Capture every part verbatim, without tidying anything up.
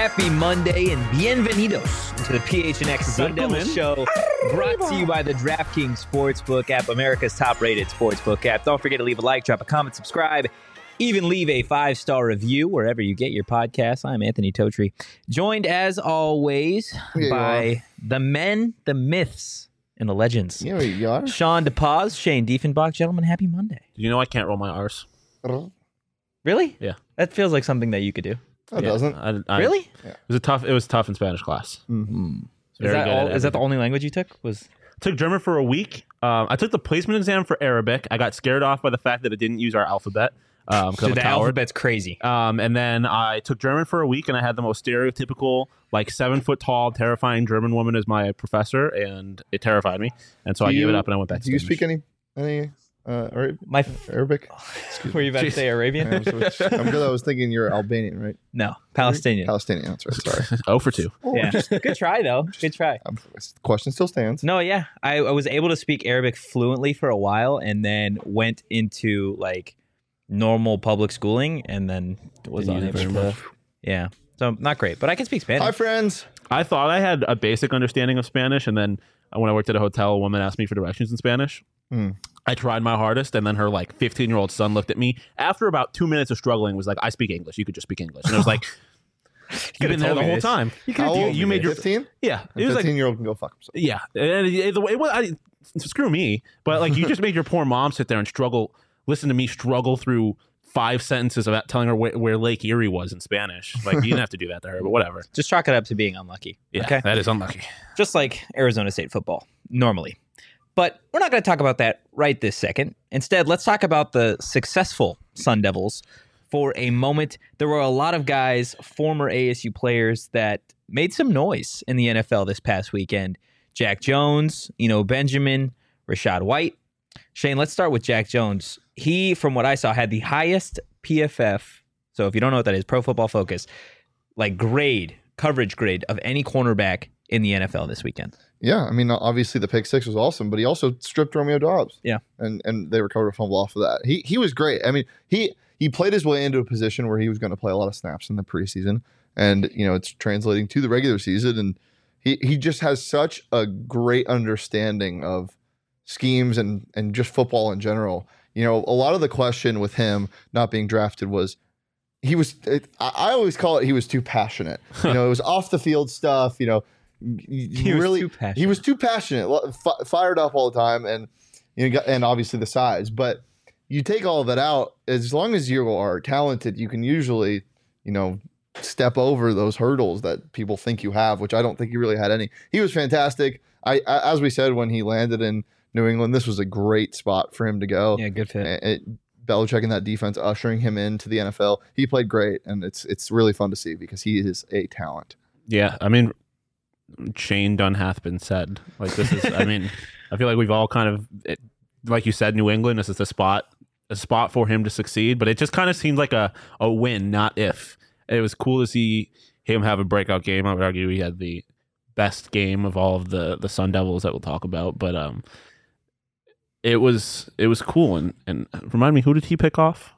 Happy Monday and bienvenidos to the P H N X Sun Devil Show, brought to you by the DraftKings Sportsbook app, America's top-rated sportsbook app. Don't forget to leave a like, drop a comment, subscribe, even leave a five-star review wherever you get your podcasts. I'm Anthony Totri, joined as always Yeah, by the men, the myths, and the legends. Yeah, you are. Sean DePaz, Shane Diefenbach. Gentlemen, happy Monday. You know I can't roll my R's. Really? Yeah. That feels like something that you could do. That Yeah, doesn't. I, I, Really? It was a tough. It was tough in Spanish class. Mm-hmm. Is Very that, good all, at is that the everything. only language you took? Was Took German for a week. Um, I took the placement exam for Arabic. I got scared off by the fact that it didn't use our alphabet. Um, 'cause so I'm a the coward. alphabet's crazy. Um, and then I took German for a week, and I had the most stereotypical, like seven foot tall, terrifying German woman as my professor, and it terrified me. And so Do I gave you- it up, and I went back to Do you Spanish. speak any any uh, Ara- My Arabic? were you about to Jeez. say Arabian? I'm, so- I'm good. I was thinking you're Albanian, right? No, Palestinian. Palestinian. That's right. Sorry. Oh for two. Yeah, good try though. Good try. Um, the question still stands. No, yeah, I, I was able to speak Arabic fluently for a while, and then went into like normal public schooling, and then was Didn't use unable it very to. Yeah, so not great, but I can speak Spanish. Hi, friends. I thought I had a basic understanding of Spanish, and then when I worked at a hotel, a woman asked me for directions in Spanish. Hmm. I tried my hardest, and then her like fifteen year old son looked at me after about two minutes of struggling, was like, "I speak English. You could just speak English." And I was like, "You've been there told the me whole this. time. You, How you, old you are made your fifteen. yeah." A It was like fifteen year old can go fuck himself. yeah, and it, it, it, I, screw me, but like you just made your poor mom sit there and struggle, listen to me struggle through five sentences about telling her where, where Lake Erie was in Spanish. Like you didn't have to do that to her, but whatever. Just chalk it up to being unlucky. Yeah, Okay. that is unlucky. Just like Arizona State football normally. But we're not going to talk about that right this second. Instead, let's talk about the successful Sun Devils for a moment. There were a lot of guys, former A S U players, that made some noise in the N F L this past weekend. Jack Jones, you know, Benjamin, Rashad White. Shane, let's start with Jack Jones. He, from what I saw, had the highest P F F. So if you don't know what that is, Pro Football Focus, like grade, coverage grade of any cornerback in the N F L this weekend. Yeah, I mean, obviously the pick six was awesome, but he also stripped Romeo Dobbs. Yeah. and and they recovered a fumble off of that. He he was great. I mean, he he played his way into a position where he was going to play a lot of snaps in the preseason, and you know it's translating to the regular season. And he he just has such a great understanding of schemes and and just football in general. You know, a lot of the question with him not being drafted was he was. It, I I always call it he was too passionate. You know, it was off the field stuff. You know. He was really, too passionate. He was too passionate, lo- fi- fired up all the time, and you know, got- and obviously the size. But you take all of that out, as long as you are talented, you can usually, you know, step over those hurdles that people think you have, which I don't think he really had any. He was fantastic. I, I as we said when he landed in New England, this was a great spot for him to go. Yeah, good fit. It, it, Belichick and that defense ushering him into the N F L. He played great, and it's it's really fun to see because he is a talent. Yeah, I mean, Shane done hath been said. Like this is, I mean, I feel like we've all kind of, it, like you said, New England. This is the spot, a spot for him to succeed. But it just kind of seemed like a a win, not if. It was cool to see him have a breakout game. I would argue he had the best game of all of the the Sun Devils that we'll talk about. But um, it was it was cool. And and remind me, who did he pick off?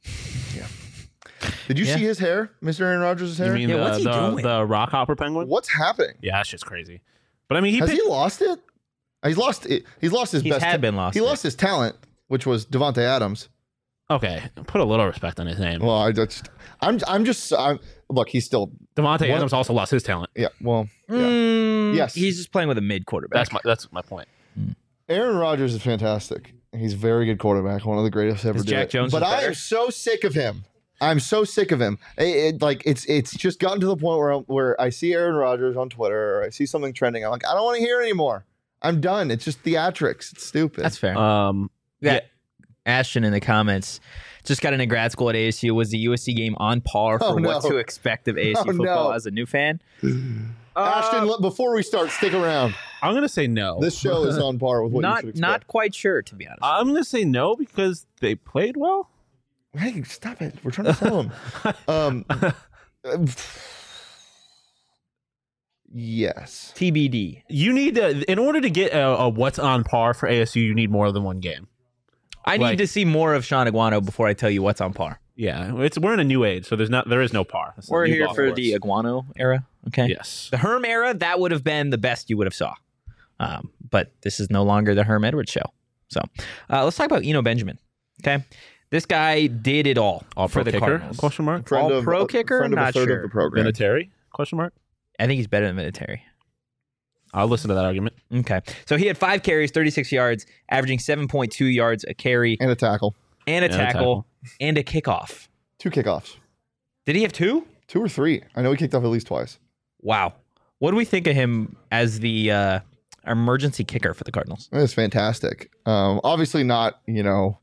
Did you Yeah. see his hair, Mister Aaron Rodgers' hair? You mean Yeah, the, what's he the, doing? the rock hopper penguin? What's happening? Yeah, that's just crazy. But I mean, he Has picked, he lost it? He's lost it. He's lost his He's best. had been lost He it. lost his talent, which was Devontae Adams. okay. Put a little respect on his name. Well, I just, I'm, I'm just, I'm, look, he's still, Devontae What? Adams also lost his talent. yeah. Well, yeah. Mm, Yes. He's just playing with a mid quarterback. That's my that's my point. Aaron Rodgers is fantastic. He's a very good quarterback, one of the greatest ever Is do Jack it. Jones But is I better? am so sick of him. I'm so sick of him. It, it- like it's it's just gotten to the point where I'm, where I see Aaron Rodgers on Twitter or I see something trending. I'm like, I don't want to hear anymore. I'm done. It's just theatrics. It's stupid. That's fair. Um, yeah. Ashton in the comments just got into grad school at A S U. Was the U S C game on par for Oh, no. what to expect of A S U Oh, football no. as a new fan? Ashton, look, before we start, stick around. I'm gonna say no. This show is on par with what you Not should expect. not quite sure, to be honest. I'm gonna say no because they played well. Hey, stop it. We're trying to sell him. um, yes. T B D. You need to, in order to get a, a what's on par for A S U, you need more than one game. I need Like- to see more of Sean Aguano before I tell you what's on par. Yeah, it's we're in a new age, so there's not there is no par. It's a We're new here golf for course. the Iguano era. Okay. Yes. The Herm era, that would have been the best you would have saw. Um, but this is no longer the Herm Edwards show. So uh, let's talk about Eno Benjamin. Okay. This guy did it all, All for pro the kicker? Cardinals. Question mark. Friend All of, pro a kicker? friend of a Not third sure. of the program. Vinatieri? Question mark. I think he's better than Vinatieri. I'll listen to that argument. Okay. So he had five carries, thirty-six yards, averaging seven point two yards a carry, And a tackle. and a And a tackle, tackle. and a kickoff. Two kickoffs. Did he have two? Two or three. I know he kicked off at least twice. Wow. What do we think of him as the uh, emergency kicker for the Cardinals? It's fantastic. Um, obviously not, you know,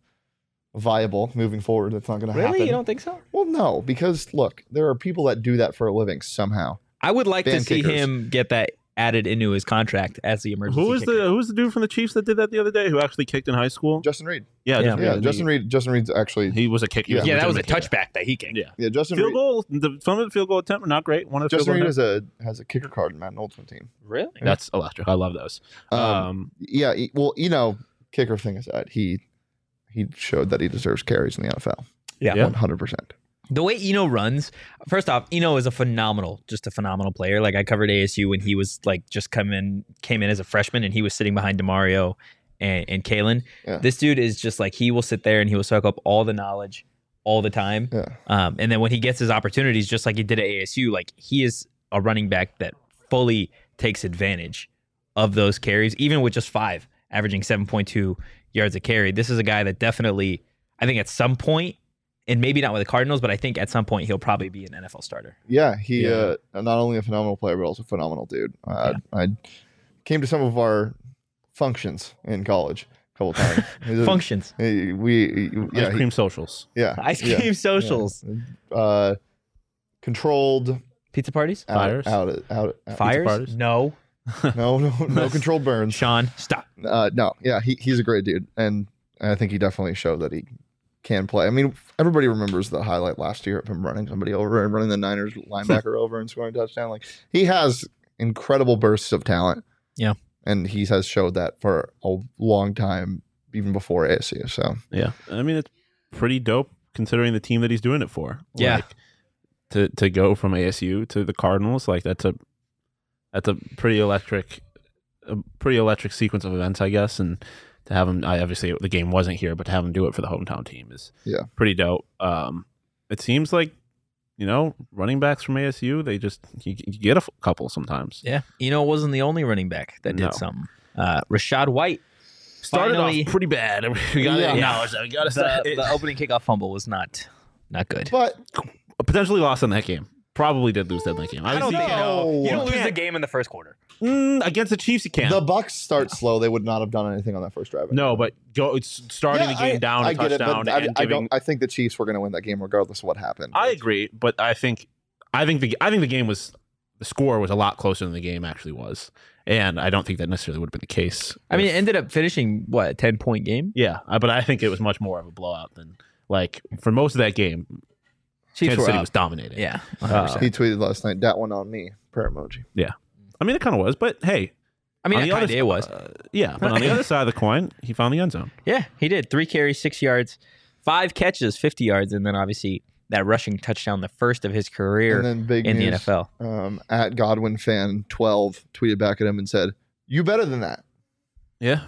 viable moving forward. That's not going to Really? happen. You don't think so? Well, no, because look, there are people that do that for a living somehow. I would like to Ban see kickers. him get that added into his contract as the emergency Who was kicker. the who was the dude from the Chiefs that did that the other day? Who actually kicked in high school? Justin Reed. yeah, Yeah. Justin Yeah, Reed. Justin Reed. Justin Reed's actually. He was a kicker. Yeah. Yeah, that was a legitimate kicker. touchback that he kicked. Yeah. Yeah, Justin Field Reed. goal. The some of the field goal attempt were not great. One of the Justin field Reed goal has a has a kicker card in Matt Ultimate Team. Really? That's electric. I love those. Um, Um, yeah, he- well, you know, kicker thing aside, he he showed that he deserves carries in the N F L. Yeah. Yeah. one hundred percent. The way Eno runs, first off, Eno is a phenomenal, just a phenomenal player. Like I covered A S U when he was like just come in, came in as a freshman, and he was sitting behind Demario and, and Kalen. Yeah. This dude is just like he will sit there and he will soak up all the knowledge all the time. Yeah. Um, and then when he gets his opportunities, just like he did at A S U, like he is a running back that fully takes advantage of those carries, even with just five, averaging seven point two yards a carry. This is a guy that definitely, I think at some point, and maybe not with the Cardinals, but I think at some point he'll probably be an N F L starter. Yeah, he Yeah. Uh, not only a phenomenal player, but also a phenomenal dude. Uh, I came to some of our functions in college a couple times. He's a- Functions. he- we, yeah, ice he- cream socials. yeah, Ice yeah, cream socials. yeah. Uh, controlled Pizza parties? out, Fires? out, out, out, out. Fires? parties? No. No, no, no controlled burns. Sean, stop. Uh, no, yeah, he, he's a great dude, and I think he definitely showed that he can play. I mean, everybody remembers the highlight last year of him running somebody over and running the Niners linebacker over and scoring a touchdown. Like he has incredible bursts of talent. Yeah. and he has showed that for a long time, even before A S U. So Yeah, I mean it's pretty dope considering the team that he's doing it for. Yeah. Like, to to go from A S U to the Cardinals, like that's a that's a pretty electric, a pretty electric sequence of events, I guess. And to have him, I obviously the game wasn't here, but to have him do it for the hometown team is Yeah. pretty dope. Um, it seems like you know running backs from A S U, they just you, you get a f- couple sometimes. Yeah. Eno wasn't the only running back that did No. something. Uh, Rashad White. Started Finally- off pretty bad. We got to Yeah. acknowledge that. We got to The, the opening kickoff fumble was not not good. but potentially lost in that game. Probably did lose that game. I don't Obviously, think No. you don't lose can't. the game in the first quarter. Mm, against the Chiefs, you can. the Bucks start slow. They would not have done anything on that first drive. no, but go, it's starting Yeah, the game I, down, I a get it, touchdown, but I, and I giving. don't. I think the Chiefs were going to win that game regardless of what happened. I agree, but I think, I think the, I think the game was, the score was a lot closer than the game actually was, and I don't think that necessarily would have been the case. I mean, if- it ended up finishing, what, a ten-point game? yeah, I- but I think it was much more of a blowout than like for most of that game. Chiefs Kansas were City up. was dominating. Yeah. Uh, one hundred percent. He tweeted last night, "Dat one on me." Prayer emoji. I mean, it kind of was, but hey, I mean, on it the other kind of was. uh, yeah, but on the other side of the coin, he found the end zone. Yeah, he did. Three carries, six yards, five catches, fifty yards, and then obviously that rushing touchdown, the first of his career And then big in the news, N F L. Um, at Godwin fan twelve tweeted back at him and said, "You better than that." Yeah,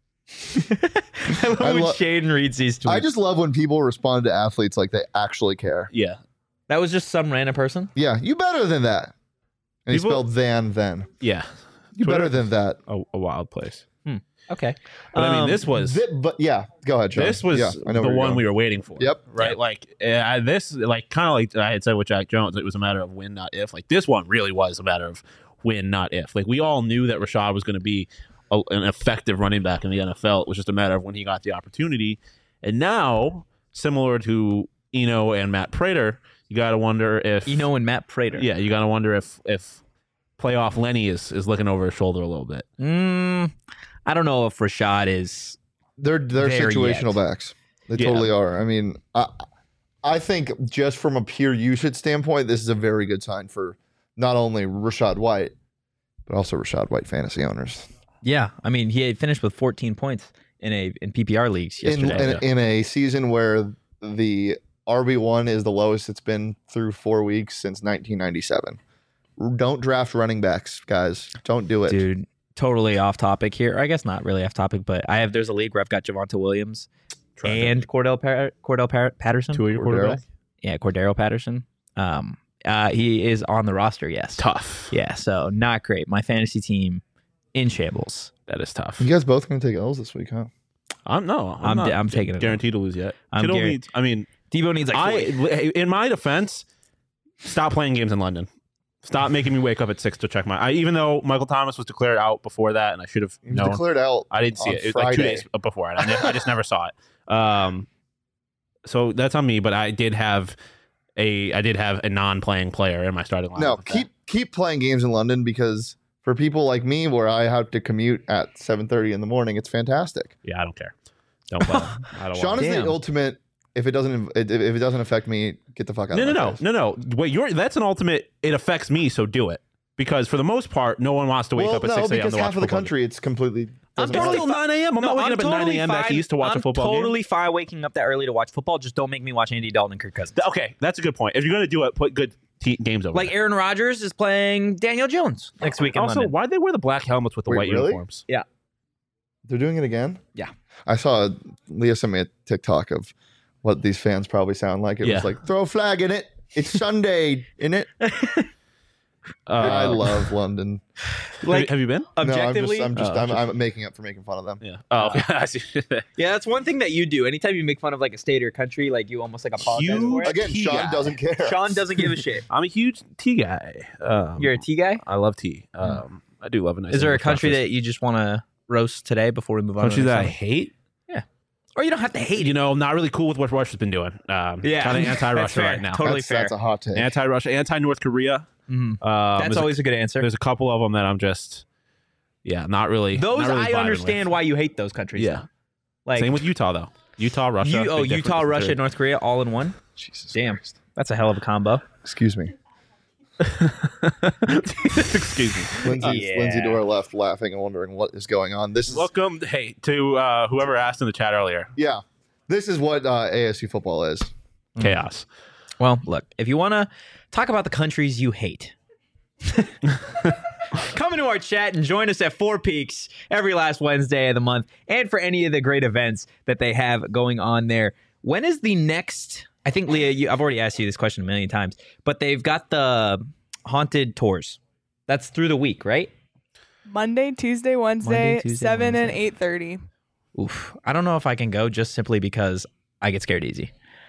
I love I when lo- Shaden reads these tweets. I just love when people respond to athletes like they actually care. yeah, that was just some random person. Yeah, you better than that. And he People- spelled than then. yeah. You Twitter- better than that. A, a wild place. Okay. But I mean, Um, this was Th- but yeah, go ahead, Sean. this was yeah, I know the where you're one going. we were waiting for. Yep. Right. Yep. Like uh, this, like kind of like I had said with Jack Jones, it was a matter of when, not if. Like this one really was a matter of when, not if. Like we all knew that Rashad was going to be a, an effective running back in the N F L. It was just a matter of when he got the opportunity. And now, similar to Eno and Matt Prater, you got to wonder if Eno and Matt Prater. Yeah, you got to wonder if if playoff Lenny is is looking over his shoulder a little bit. Mm, I don't know if Rashad is. They're they're There situational yet. backs. They Yeah. totally are. I mean, I I think just from a pure usage standpoint, this is a very good sign for not only Rashad White, but also Rashad White fantasy owners. Yeah, I mean, he had finished with fourteen points in a in P P R leagues In, yesterday. in, in a season where the R B one is the lowest it's been through four weeks since nineteen ninety-seven. Don't draft running backs, guys. Don't do it. Dude, totally off topic here. I guess not really off topic, but I have there's a league where I've got Javonte Williams and Cordell Par- Cordell Par- Patterson. Two of your Cordero. quarterback. Yeah, Cordero Patterson. Um, uh, he is on the roster. Yes. Tough. Yeah. So not great. My fantasy team in shambles. That is tough. You guys both going to take L's this week, huh? I'm no. I'm, I'm not d- I'm taking it. guaranteed to lose yet. I'm Kittle guar- needs. I mean, Debo needs like I forty. in my defense, stop playing games in London. Stop making me wake up at six to check my. I, even though Michael Thomas was declared out before that, and I should have He was known. declared out. I didn't see on it. It was like two Friday. days before it. I, ne- I just never saw it. Um, so that's on me. But I did have a. I did have a non-playing player in my starting lineup. No, with that. keep keep playing games in London because for people like me, where I have to commute at seven thirty in the morning, it's fantastic. Yeah, I don't care. Don't play. I don't Sean want. is Damn. the ultimate. If it doesn't, if if it doesn't affect me, get the fuck out. No, of no, my no, face. no, no. Wait, you're that's an ultimate. It affects me, so do it. Because for the most part, no one wants to wake Well, up at no, six a.m. because to watch half of the football. country, it's completely. I'm doesn't It's totally matter. still nine a.m. I'm not waking up at nine a.m. back fine. east to watch I'm a football totally game. fine waking up that early to watch football. Just don't make me watch Andy Dalton and Kirk Cousins. Okay, that's a good point. If you're going to do it, put good te- games over Like there. Aaron Rodgers is playing Daniel Jones next week in Also, London. why'd they wear the black helmets with the Wait, white really? uniforms? They're doing it again. Yeah. I saw Leah sent me a TikTok of what these fans probably sound like. It Yeah. was like throw a flag in it. It's Sunday in it. Uh, I love London. Have, Like, you, have you been? Objectively, no, I'm just, I'm, just Oh, I'm, I'm making up for making fun of them. Yeah. Oh, okay. I see. yeah, that's one thing that you do. Anytime you make fun of like a state or country, like you almost like apologize for Huge- it. Again, Tea Sean guy. doesn't care. Sean doesn't give a shit. I'm a huge tea guy. Um, You're a tea guy. I love tea. Um, I do love a nice. Is there a English country breakfast. that you just want to roast today before we move on? country to the that I next hate? one? Or you don't have to hate. You know, I'm not really cool with what Russia's been doing. Um, Yeah. kind of That's anti-Russia fair. right now. Totally that's, fair. That's a hot take. Anti-Russia, anti-North Korea. Mhm. Um, That's there's always a, a good answer. there's a couple of them that I'm just, yeah, not really. Those not really I vibing understand with. why you hate those countries. Yeah. Like Same with Utah though. Utah, Russia. you, oh, big difference Utah, in Russia, third. North Korea, all in one. Jesus Damn. Christ. That's a hell of a combo. Excuse me. Excuse me. Lindsay, Yeah. Lindsay Dora left laughing and wondering what is going on. This is Welcome, hey, to uh, whoever asked in the chat earlier. yeah. This is what uh, A S U football is. Chaos. Well, look, if you want to talk about the countries you hate, come into our chat and join us at Four Peaks every last Wednesday of the month, and for any of the great events that they have going on there. When is the next? I think Leah, you, I've already asked you this question a million times, but they've got the haunted tours. That's through the week, right? Monday, Tuesday, Wednesday, Monday, Tuesday, seven and Wednesday. eight thirty. Oof, I don't know if I can go just simply because I get scared easy.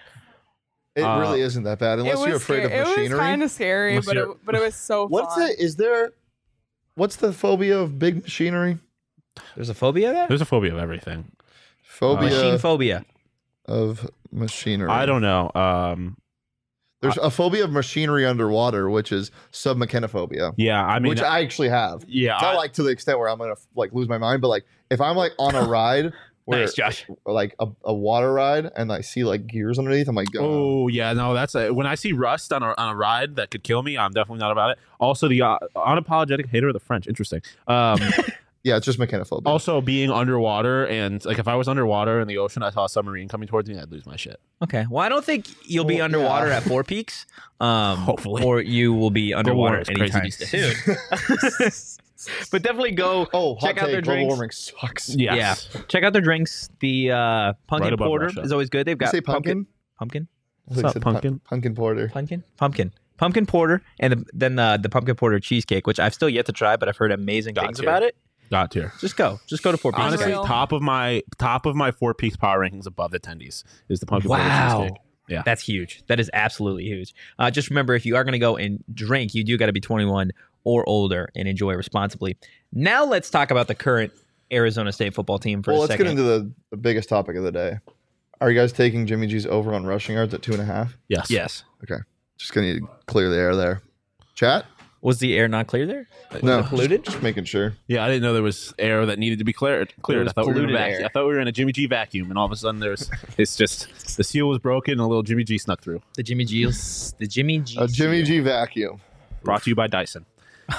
It Uh, really isn't that bad unless It was you're afraid scary. of It was machinery. kind of scary, Unless but it, you're- but it was so What's fun. it? Is there? What's the phobia of big machinery? There's a phobia there. There's a phobia of everything. Phobia Machine phobia. of machinery. I don't know. Um, There's a phobia of machinery underwater, which is submechanophobia, yeah, I mean, which I actually have. yeah, It's not I- like to the extent where I'm gonna like lose my mind, but like if I'm like on a ride where Nice, Josh. like a, a water ride and I see like gears underneath, I'm like, oh, Oh yeah, no, that's a, when I see rust on a on a ride that could kill me. I'm definitely not about it. Also, the uh, unapologetic hater of the French. Interesting. Um, yeah, it's just mechanophobia. also, being underwater and like if I was underwater in the ocean, I saw a submarine coming towards me, I'd lose my shit. Okay. Well, I don't think you'll be Well, underwater yeah. at Four Peaks. Um, Hopefully. Or you will be underwater warming's crazy anytime these days. soon. But definitely go oh, hot check out take, their global drinks. warming sucks. Yes. Yeah. Check out their drinks. The uh, pumpkin Right above porter Russia. is always good. They've You got say pumpkin? pumpkin, I thought you What's up, said pu- pumpkin? pumpkin porter. pumpkin, pumpkin, pumpkin porter, and the, then uh, the pumpkin porter cheesecake, which I've still yet to try, but I've heard amazing Got things to. about it. Got here. Just go, just go to Four Peaks. Honestly, Unreal. top of my top of my Four Peaks power rankings above the attendees is the pumpkin porter Wow. cheesecake. Yeah. That's huge. That is absolutely huge. Uh, just remember, if you are going to go and drink, you do got to be twenty-one or older and enjoy responsibly. Now let's talk about the current Arizona State football team for Well, a let's second. get into the, the biggest topic of the day. Are you guys taking Jimmy G's over on rushing yards at two and a half? Yes. Yes. Just gonna need to clear the air there. Chat? Was the air not clear there? Was no, it polluted? Just, just making sure. Yeah, I didn't know there was air that needed to be cleared. Cleared. was I thought we were in a polluted vacuum. air. I thought we were in a Jimmy G vacuum, and all of a sudden there's it's just the seal was broken, and a little Jimmy G snuck through. The Jimmy G's, the Jimmy G. A Jimmy G vacuum. Brought to you by Dyson.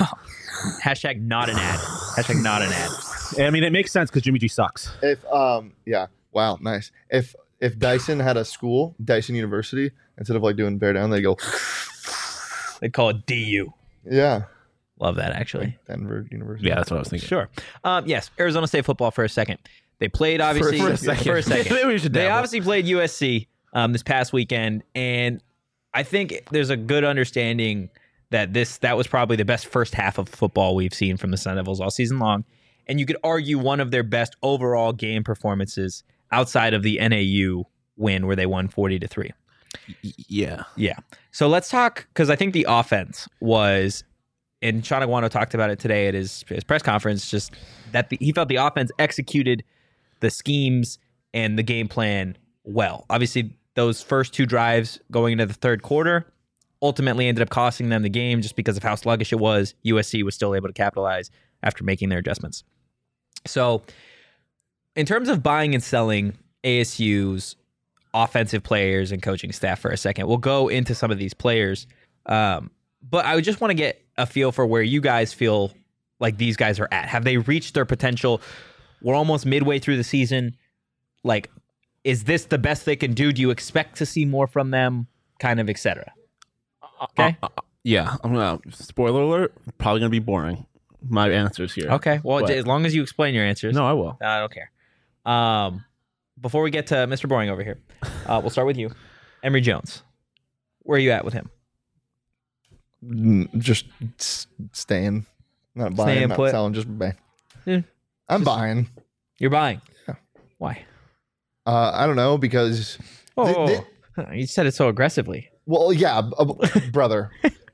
Hashtag not an ad. Hashtag not an ad. I mean, it makes sense because Jimmy G sucks. If um yeah, wow, nice. If if Dyson had a school, Dyson University, instead of like doing bear down, they go, They call it D U. yeah, Love that, actually. Denver University. Yeah, that's what I was thinking. Sure. Um, yes, Arizona State football for a second. They played, obviously. for a second. For a second. Maybe we should They dabble. obviously played U S C um, this past weekend, and I think there's a good understanding that this that was probably the best first half of football we've seen from the Sun Devils all season long. And you could argue one of their best overall game performances outside of the N A U win where they won forty to three. Y- Yeah. Yeah. So let's talk, because I think the offense was, and Sean Aguano talked about it today at his, his press conference, just that the, he felt the offense executed the schemes and the game plan well. Obviously, those first two drives going into the third quarter ultimately ended up costing them the game just because of how sluggish it was. U S C was still able to capitalize after making their adjustments. So in terms of buying and selling A S U's offensive players and coaching staff for a second, we'll go into some of these players. Um, but I would just want to get a feel for where you guys feel like these guys are at. Have they reached their potential? We're almost midway through the season. Like, is this the best they can do? Do you expect to see more from them? Kind of, et cetera. Okay. Uh, uh, yeah. I'm gonna spoiler alert. Probably gonna be boring. My answers here. Okay. Well, But- as long as you explain your answers. No, I will. I don't care. Um, before we get to Mister Boring over here, uh, we'll start with you. Emory Jones. Where are you at with him? Mm, Just s- staying, not buying, Staying not put. selling, just buying. Yeah. I'm Just- buying. You're buying. Yeah. Why? Uh, I don't know because, Oh, They- you said it so aggressively. well, yeah, b- uh, brother.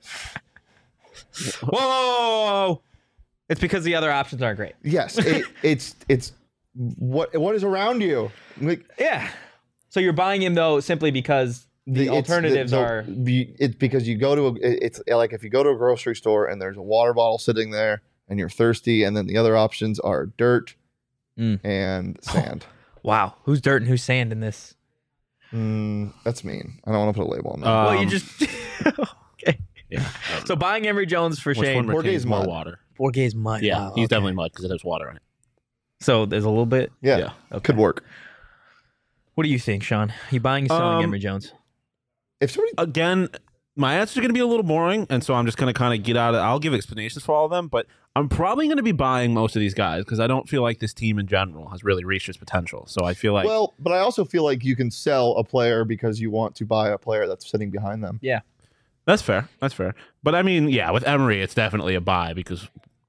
Whoa! It's because the other options aren't great. Yes, it, it's it's what what is around you. Like Yeah. So you're buying him though simply because the, it's alternatives the- are. the- it's because you go to a, it- it's like if you go to a grocery store and there's a water bottle sitting there and you're thirsty, and then the other options are dirt Mm. and sand. Wow. Who's dirt and who's sand in this? Mm, that's mean. I don't want to put a label on that. Uh, well, you Um, just. Okay. Yeah. So buying Emory Jones for Which one Shane. Jorge's retains more mud. water? Borges mud. Yeah, Wow, he's okay. definitely mud because it has water in it. So there's a little bit. yeah, yeah. Okay. could work. What do you think, Sean? You buying or selling Um, Emory Jones? If somebody Again, my answers are going to be a little boring, and so I'm just going to kind of get out of I'll give explanations for all of them, but I'm probably going to be buying most of these guys because I don't feel like this team in general has really reached its potential. So I feel like well, but I also feel like you can sell a player because you want to buy a player that's sitting behind them. that's fair. That's fair. But I mean, yeah, with Emory, it's definitely a buy because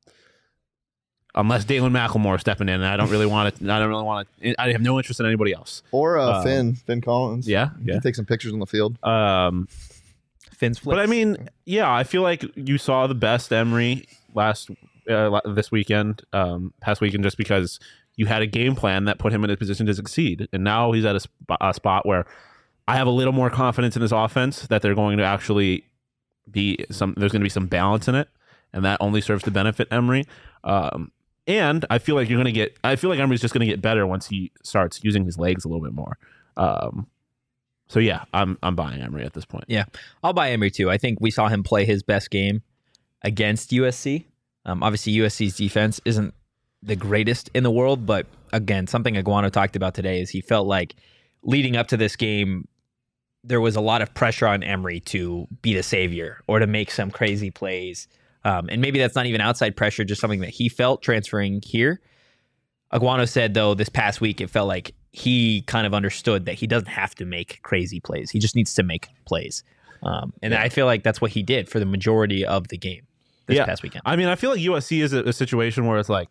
unless Dalen McLemore stepping in, I don't really want to. I don't really want to. I have no interest in anybody else. Or uh, Um, Finn, Finn Collins. Yeah, You yeah. can take some pictures on the field. Um, Finn's flips. but I mean, yeah, I feel like you saw the best Emory last uh, la- this weekend, um, past weekend, just because you had a game plan that put him in a position to succeed, and now he's at a, sp- a spot where I have a little more confidence in his offense that they're going to actually be some. There's going to be some balance in it, and that only serves to benefit Emory. Um, and I feel like you're going to get. I feel like Emory's just going to get better once he starts using his legs a little bit more. Um, so yeah, I'm I'm buying Emory at this point. I'll buy Emory too. I think we saw him play his best game against U S C. Um, obviously, U S C's defense isn't the greatest in the world, but again, something Aguano talked about today is he felt like leading up to this game, there was a lot of pressure on Emory to be the savior or to make some crazy plays. Um, and maybe that's not even outside pressure, just something that he felt transferring here. Aguano said, though, this past week, it felt like he kind of understood that he doesn't have to make crazy plays. He just needs to make plays. Um, and I feel like that's what he did for the majority of the game this Yeah. past weekend. I mean, I feel like U S C is a, a situation where it's like,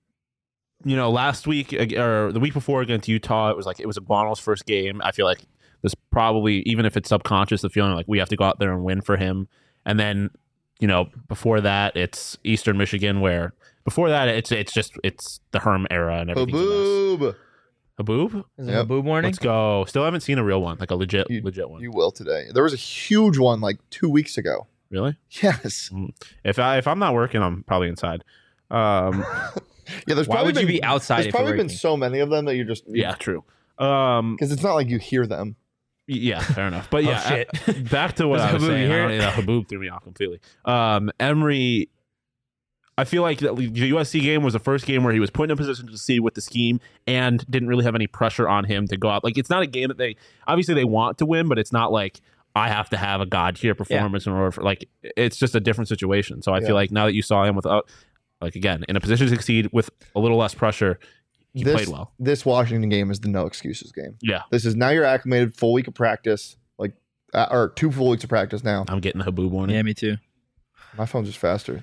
you know, last week ag- or the week before against Utah, it was like it was Aguano's first game. I feel like there's probably, even if it's subconscious, the feeling like we have to go out there and win for him. And then, you know, before that, it's Eastern Michigan, where before that, it's it's just it's the Herm era and everything. Boob. Haboob? Is it Yep. a boob warning? Let's go. Still haven't seen a real one, like a legit You- legit one. You will today. There was a huge one like two weeks ago. Really? Yes. If I if I'm not working, I'm probably inside. Um, Yeah. There's Why probably would you been, be outside There's if probably you're been working? so many of them that you're just yeah, true. Um, because it's not like you hear them. Yeah, fair enough. But yeah, Oh, shit. uh, back to what Was I was Haboob, saying. you I hear don't- it? yeah, Haboob threw me off completely. Um, Emory, I feel like the U S C game was the first game where he was put in a position to succeed with the scheme and didn't really have any pressure on him to go out. Like, it's not a game that they obviously they want to win, but it's not like I have to have a god tier performance yeah. in order for like. It's just a different situation. So I yeah. feel like now that you saw him without, like again, in a position to succeed with a little less pressure, he this, played well. This Washington game is the no excuses game. Yeah, this is now you're acclimated, full week of practice, like uh, or two full weeks of practice now. I'm getting the Haboob warning. Yeah, me too. My phone's just faster.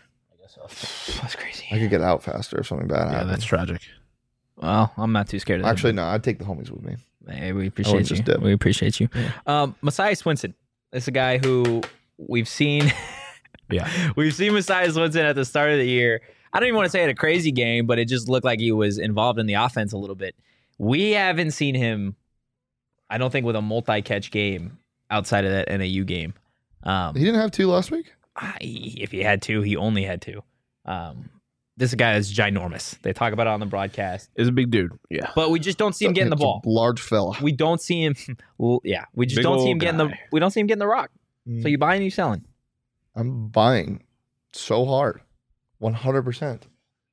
That's crazy. I could get out faster if something bad yeah, happened. That's tragic. Well, I'm not too scared of that. Actually, no. I'd take the homies with me. Hey, we appreciate you. Dip. We appreciate you. Yeah. Um, Messiah Swinson. This is a guy who we've seen. yeah, we've seen Messiah Swinson at the start of the year. I don't even want to say it a crazy game, but it just looked like he was involved in the offense a little bit. We haven't seen him, I don't think, with a multi-catch game outside of that N A U game. Um, he didn't have two last week? I, if he had two, he only had two. Um, this guy is ginormous. They talk about it on the broadcast. Is a big dude. Yeah. But we just don't see him getting the ball. Large fella. We don't see him. Yeah. We just Big don't see him old getting the guy. we don't see him getting the rock. Mm. So you buying, you selling. I'm buying so hard. one hundred percent.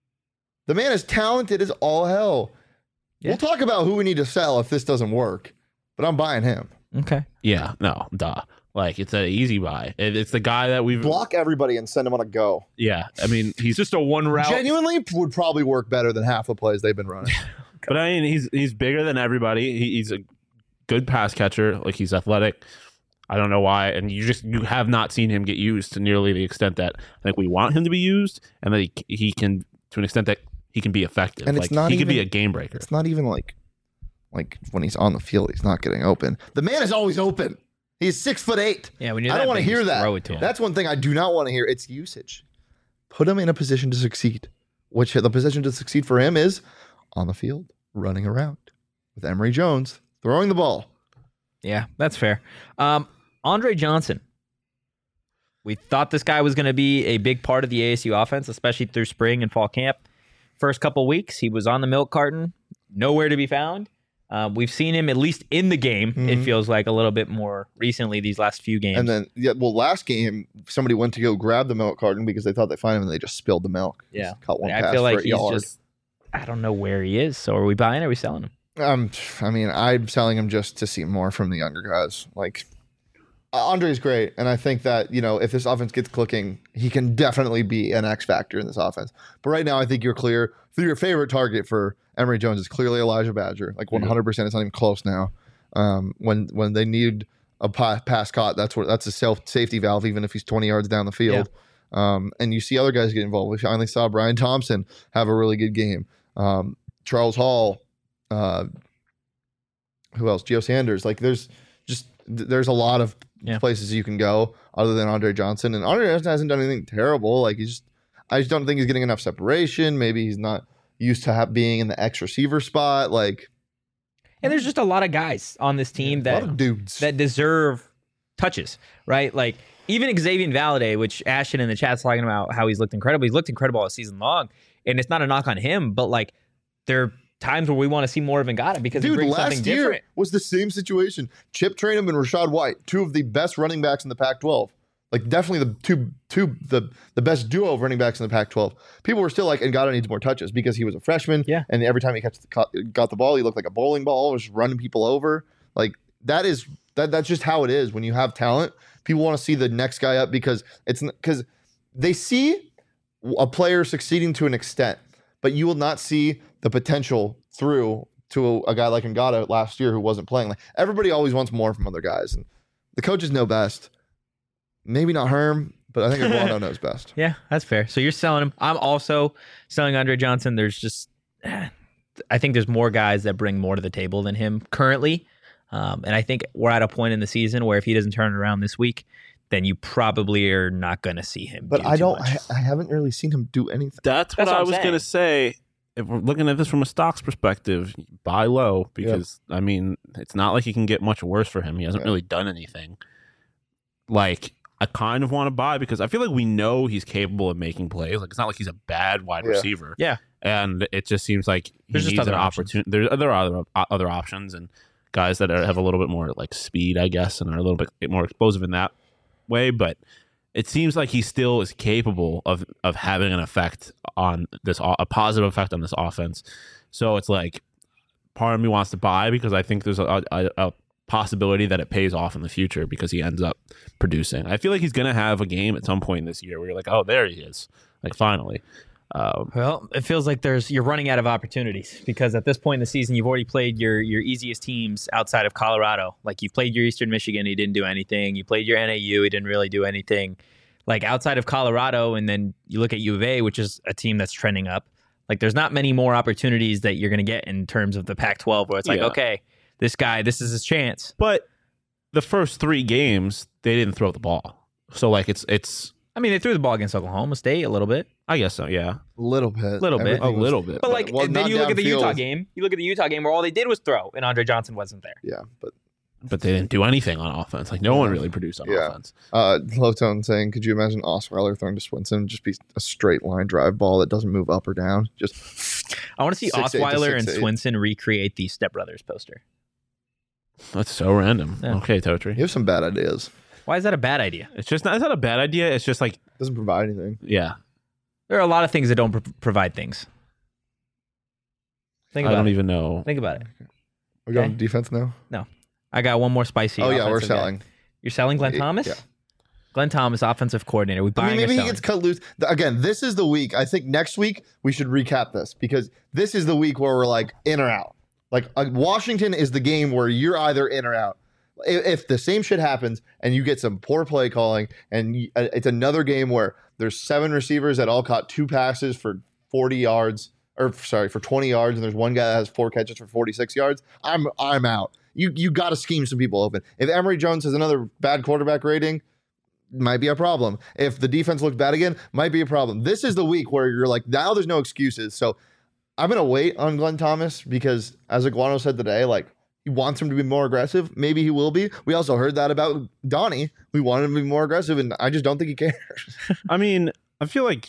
The man is talented as all hell. Yeah. We'll talk about who we need to sell if this doesn't work, but I'm buying him. Okay. Yeah. No. Duh. Like, it's an easy buy. It, it's the guy that we've Block everybody and send him on a go. Yeah. I mean, he's Just a one route. Genuinely would probably work better than half the plays they've been running. But I mean, he's he's bigger than everybody. He, he's a good pass catcher. Like, he's athletic. I don't know why, and you just you have not seen him get used to nearly the extent that I think we want him to be used, and that he he can to an extent that he can be effective. And like, it's not he even, could be a game breaker. It's not even like like when he's on the field, he's not getting open. The man is always open. He's six foot eight. Yeah, when you're I that don't want to big, hear just that. Throw it to him. That's one thing I do not want to hear. It's usage. Put him in a position to succeed. Which the position to succeed for him is on the field, running around with Emory Jones throwing the ball. Yeah, that's fair. Um, Andre Johnson. We thought this guy was going to be a big part of the A S U offense, especially through spring and fall camp. First couple weeks, he was on the milk carton, nowhere to be found. Uh, we've seen him at least in the game. Mm-hmm. It feels like a little bit more recently these last few games. And then, yeah, well, last game somebody went to go grab the milk carton because they thought they found him, and they just spilled the milk. Yeah, just caught one I pass feel like for a he's yard. just. I don't know where he is. So are we buying? Or are we selling him? Um, I mean, I'm selling him just to see more from the younger guys. Like, Andre's great, and I think that, you know, if this offense gets clicking, he can definitely be an X factor in this offense. But right now, I think you're clear. Your favorite target for Emory Jones is clearly Elijah Badger. Like one hundred percent. It's not even close now. Um, when when they need a pa- pass caught, that's what that's a self safety valve, even if he's twenty yards down the field. Yeah. Um, and you see other guys get involved. We finally saw Brian Thompson have a really good game. Um, Charles Hall. Uh, who else? Gio Sanders. Like there's just there's a lot of yeah. places you can go other than Andre Johnson, and Andre Johnson hasn't done anything terrible. Like he's just, I just don't think he's getting enough separation. Maybe he's not used to have, being in the X receiver spot. Like, and there's just a lot of guys on this team that a lot of dudes that deserve touches, right? Like even Xavier Valade, which Ashton in the chat's talking about how he's looked incredible. He's looked incredible all season long, and it's not a knock on him, but like there. Times where we want to see more of Ngata because Dude, he brings last something year different. Was the same situation. Chip Trainum and Rashad White, two of the best running backs in the Pac twelve. Like definitely the two two the the best duo of running backs in the Pac twelve. People were still like, Ngata needs more touches because he was a freshman. Yeah. And every time he catch the, got the ball, he looked like a bowling ball, was running people over. Like that is that that's just how it is when you have talent. People want to see the next guy up because it's because they see a player succeeding to an extent, but you will not see the potential through to a, a guy like Ngata last year who wasn't playing. Like everybody always wants more from other guys, and the coaches know best. Maybe not Herm, but I think Iguano knows best. Yeah, that's fair. So you're selling him. I'm also selling Andre Johnson. There's just, I think there's more guys that bring more to the table than him currently, um, and I think we're at a point in the season where if he doesn't turn it around this week, then you probably are not going to see him. But do I too don't. much. I, I haven't really seen him do anything. That's, That's what, what I I'm was saying. going to say. If we're looking at this from a stocks perspective, buy low because, yep. I mean, it's not like he can get much worse for him. He hasn't yeah. really done anything. Like, I kind of want to buy because I feel like we know he's capable of making plays. Like, it's not like he's a bad wide yeah. receiver. Yeah. And it just seems like he There's needs just an other opportunity. There's other, other, other options and guys that are, have a little bit more, like, speed, I guess, and are a little bit more explosive in that way. But it seems like he still is capable of of having an effect on this, a positive effect on this offense. So it's like part of me wants to buy because I think there's a, a, a possibility that it pays off in the future because he ends up producing. I feel like he's going to have a game at some point this year where you're like, oh, there he is. Like, finally. Um, Well, it feels like there's you're running out of opportunities because at this point in the season, you've already played your your easiest teams outside of Colorado. Like you played your Eastern Michigan, he didn't do anything. You played your N A U, he didn't really do anything. Like outside of Colorado, and then you look at U of A, which is a team that's trending up. Like there's not many more opportunities that you're going to get in terms of the Pac twelve where it's like, Yeah. okay, this guy, this is his chance. but the first three games, they didn't throw the ball. So, like, it's, it's I mean, they threw the ball against Oklahoma State a little bit. I guess so, yeah. Little bit. Little bit. Everything A little bit. But like, well, and then not you look at the Utah downfield. game. You look at the Utah game where all they did was throw, and Andre Johnson wasn't there. Yeah, but But they didn't do anything on offense. Like, no one really produced on Yeah. offense. uh, Low Tone saying, could you imagine Osweiler throwing to Swinson just be a straight line drive ball that doesn't move up or down? Just I want to see six eight to Osweiler and six eight. Swinson recreate the Step Brothers poster. That's so random. Yeah. Okay, Totri. you have some bad ideas. Why is that a bad idea? It's just not, it's not a bad idea. It's just like, Doesn't provide anything. yeah. There are a lot of things that don't pr- provide things. Think I about don't it. even know. Think about it. We're going Okay. defense now. I got one more spicy. Oh yeah, we're offensive guy. selling. You're selling Glenn Yeah. Thomas? Glenn Thomas, offensive coordinator. We I buying mean, or maybe he selling? gets cut loose. Th- Again, this is the week. I think next week we should recap this because this is the week where we're like in or out. Like uh, Washington is the game where you're either in or out. If, if the same shit happens and you get some poor play calling, and you, uh, it's another game where there's seven receivers that all caught two passes for forty yards, or sorry, for twenty yards, and there's one guy that has four catches for forty-six yards. I'm I'm out. You you got to scheme some people open. If Emory Jones has another bad quarterback rating, might be a problem. If the defense looks bad again, might be a problem. This is the week where you're like, now there's no excuses. So I'm going to wait on Glenn Thomas because, as Iguano said today, like, he wants him to be more aggressive. Maybe he will be. We also heard that about Donnie. We wanted him to be more aggressive, and I just don't think he cares. I mean, I feel like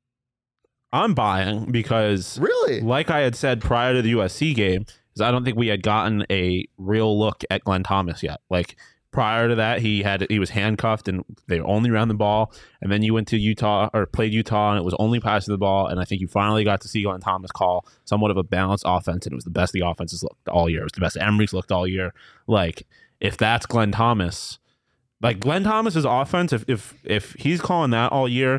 I'm buying because, Really? like I had said prior to the U S C game, is I don't think we had gotten a real look at Glenn Thomas yet. Like, prior to that, he had he was handcuffed and they only ran the ball. And then you went to Utah or played Utah and it was only passing the ball. And I think you finally got to see Glenn Thomas call somewhat of a balanced offense. And it was the best the offenses looked all year. It was the best Emory's looked all year. Like, if that's Glenn Thomas, like Glenn Thomas's offense, if if if he's calling that all year,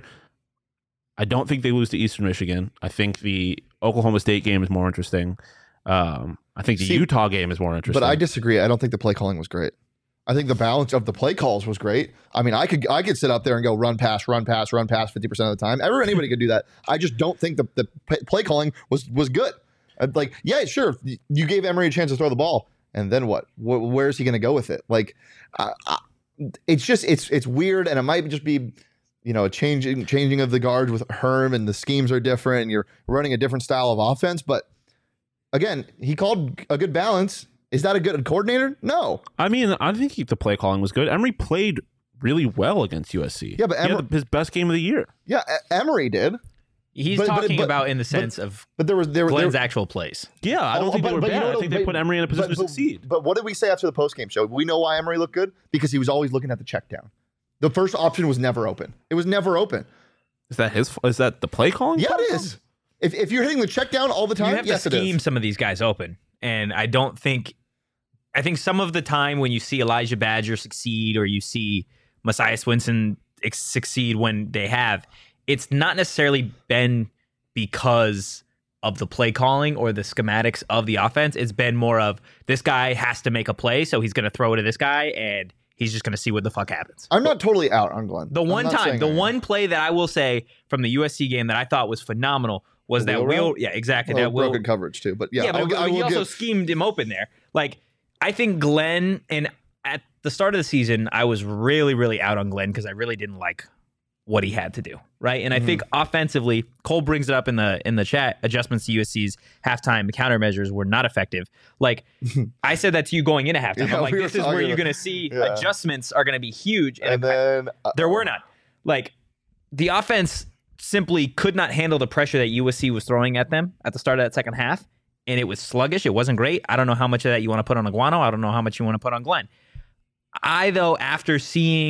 I don't think they lose to Eastern Michigan. I think the Oklahoma State game is more interesting. Um, I think the See, Utah game is more interesting. But I disagree. I don't think the play calling was great. I think the balance of the play calls was great. I mean, I could I could sit up there and go run pass, run pass, run pass fifty percent of the time. Every, anybody could do that. I just don't think the, the p- play calling was was good. Uh, Like, yeah, sure, you gave Emory a chance to throw the ball, and then what? Wh- where is he going to go with it? Like, uh, uh, it's just it's it's weird, and it might just be, you know, a changing changing of the guards with Herm, and the schemes are different, and you're running a different style of offense. But again, he called a good balance. Is that a good coordinator? No. I mean, I think he, the play calling was good. Emory played really well against U S C. Yeah, but he had Emory- the- his best game of the year. Yeah, E- Emory did, He's But- but- talking but- about in the sense of but there was there, Glenn's there actual plays. Yeah, I don't Oh, think but- they were but you bad. know I what- think they but- put Emory in a position but, to succeed. But what did we say after the post game show? We know why Emory looked good because he was always looking at the check down. The first option was never open. It was never open. Is that his? Is that the play calling? Yeah, problem? it is. If if you're hitting the check down all the time, You have yes, to it is. scheme some of these guys open, and I don't think. I think some of the time when you see Elijah Badger succeed or you see Messiah Swinson ex- succeed when they have, it's not necessarily been because of the play calling or the schematics of the offense. It's been more of this guy has to make a play, so he's going to throw it to this guy, and he's just going to see what the fuck happens. I'm not totally out on Glenn. The I'm one not time, saying the I am. one play that I will say from the U S C game that I thought was phenomenal was The that wheel Will, route? yeah, exactly. Well, that Will, broken coverage too, but yeah, yeah, but I'll, it- I he will also give. schemed him open there. Like, I think Glenn, and at the start of the season, I was really, really out on Glenn because I really didn't like what he had to do, right? And I Mm-hmm. think offensively, Cole brings it up in the in the chat. Adjustments to U S C's halftime countermeasures were not effective. Like, I said that to you going into halftime. Yeah, I'm like, we were this is where talking you're about- going to see Yeah. adjustments are going to be huge, and, And then uh, there were none. Like, the offense simply could not handle the pressure that U S C was throwing at them at the start of that second half, and it was sluggish. It wasn't great. I don't know how much of that you want to put on Iguano. I don't know how much you want to put on Glenn. I, though, after seeing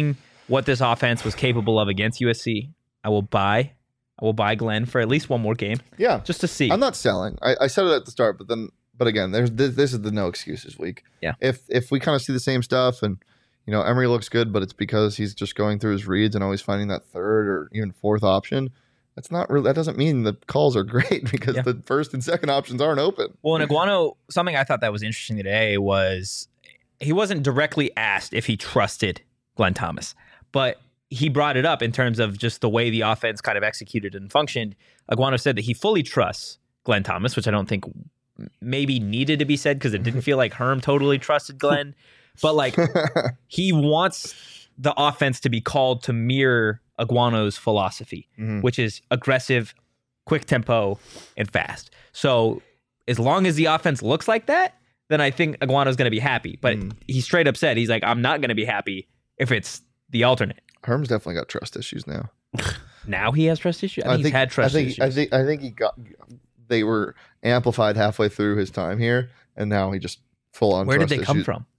what this offense was capable of against U S C, I will buy. I will buy Glenn for at least one more game, Yeah, just to see. I'm not selling. I, I said it at the start, but then, but again, there's this, this is the no excuses week. Yeah. If if we kind of see the same stuff, and you know Emery looks good, but it's because he's just going through his reads and always finding that third or even fourth option. That's not really. That doesn't mean the calls are great because Yeah. the first and second options aren't open. Well, in Iguano, something I thought that was interesting today was he wasn't directly asked if he trusted Glenn Thomas, but he brought it up in terms of just the way the offense kind of executed and functioned. Iguano said that he fully trusts Glenn Thomas, which I don't think maybe needed to be said because it didn't feel like Herm totally trusted Glenn, but like he wants the offense to be called to mirror Iguano's philosophy, Mhm. which is aggressive, quick tempo, and fast. So as long as the offense looks like that, then I think Iguano's going to be happy. But Mm. he straight up said, he's like, I'm not going to be happy if it's the alternate. Herm's definitely got trust issues now. Now he has trust issues? I think, he's had trust I think, issues. I think I think he got. They were amplified halfway through his time here, and now he just full on. Where did trust they come issues. from?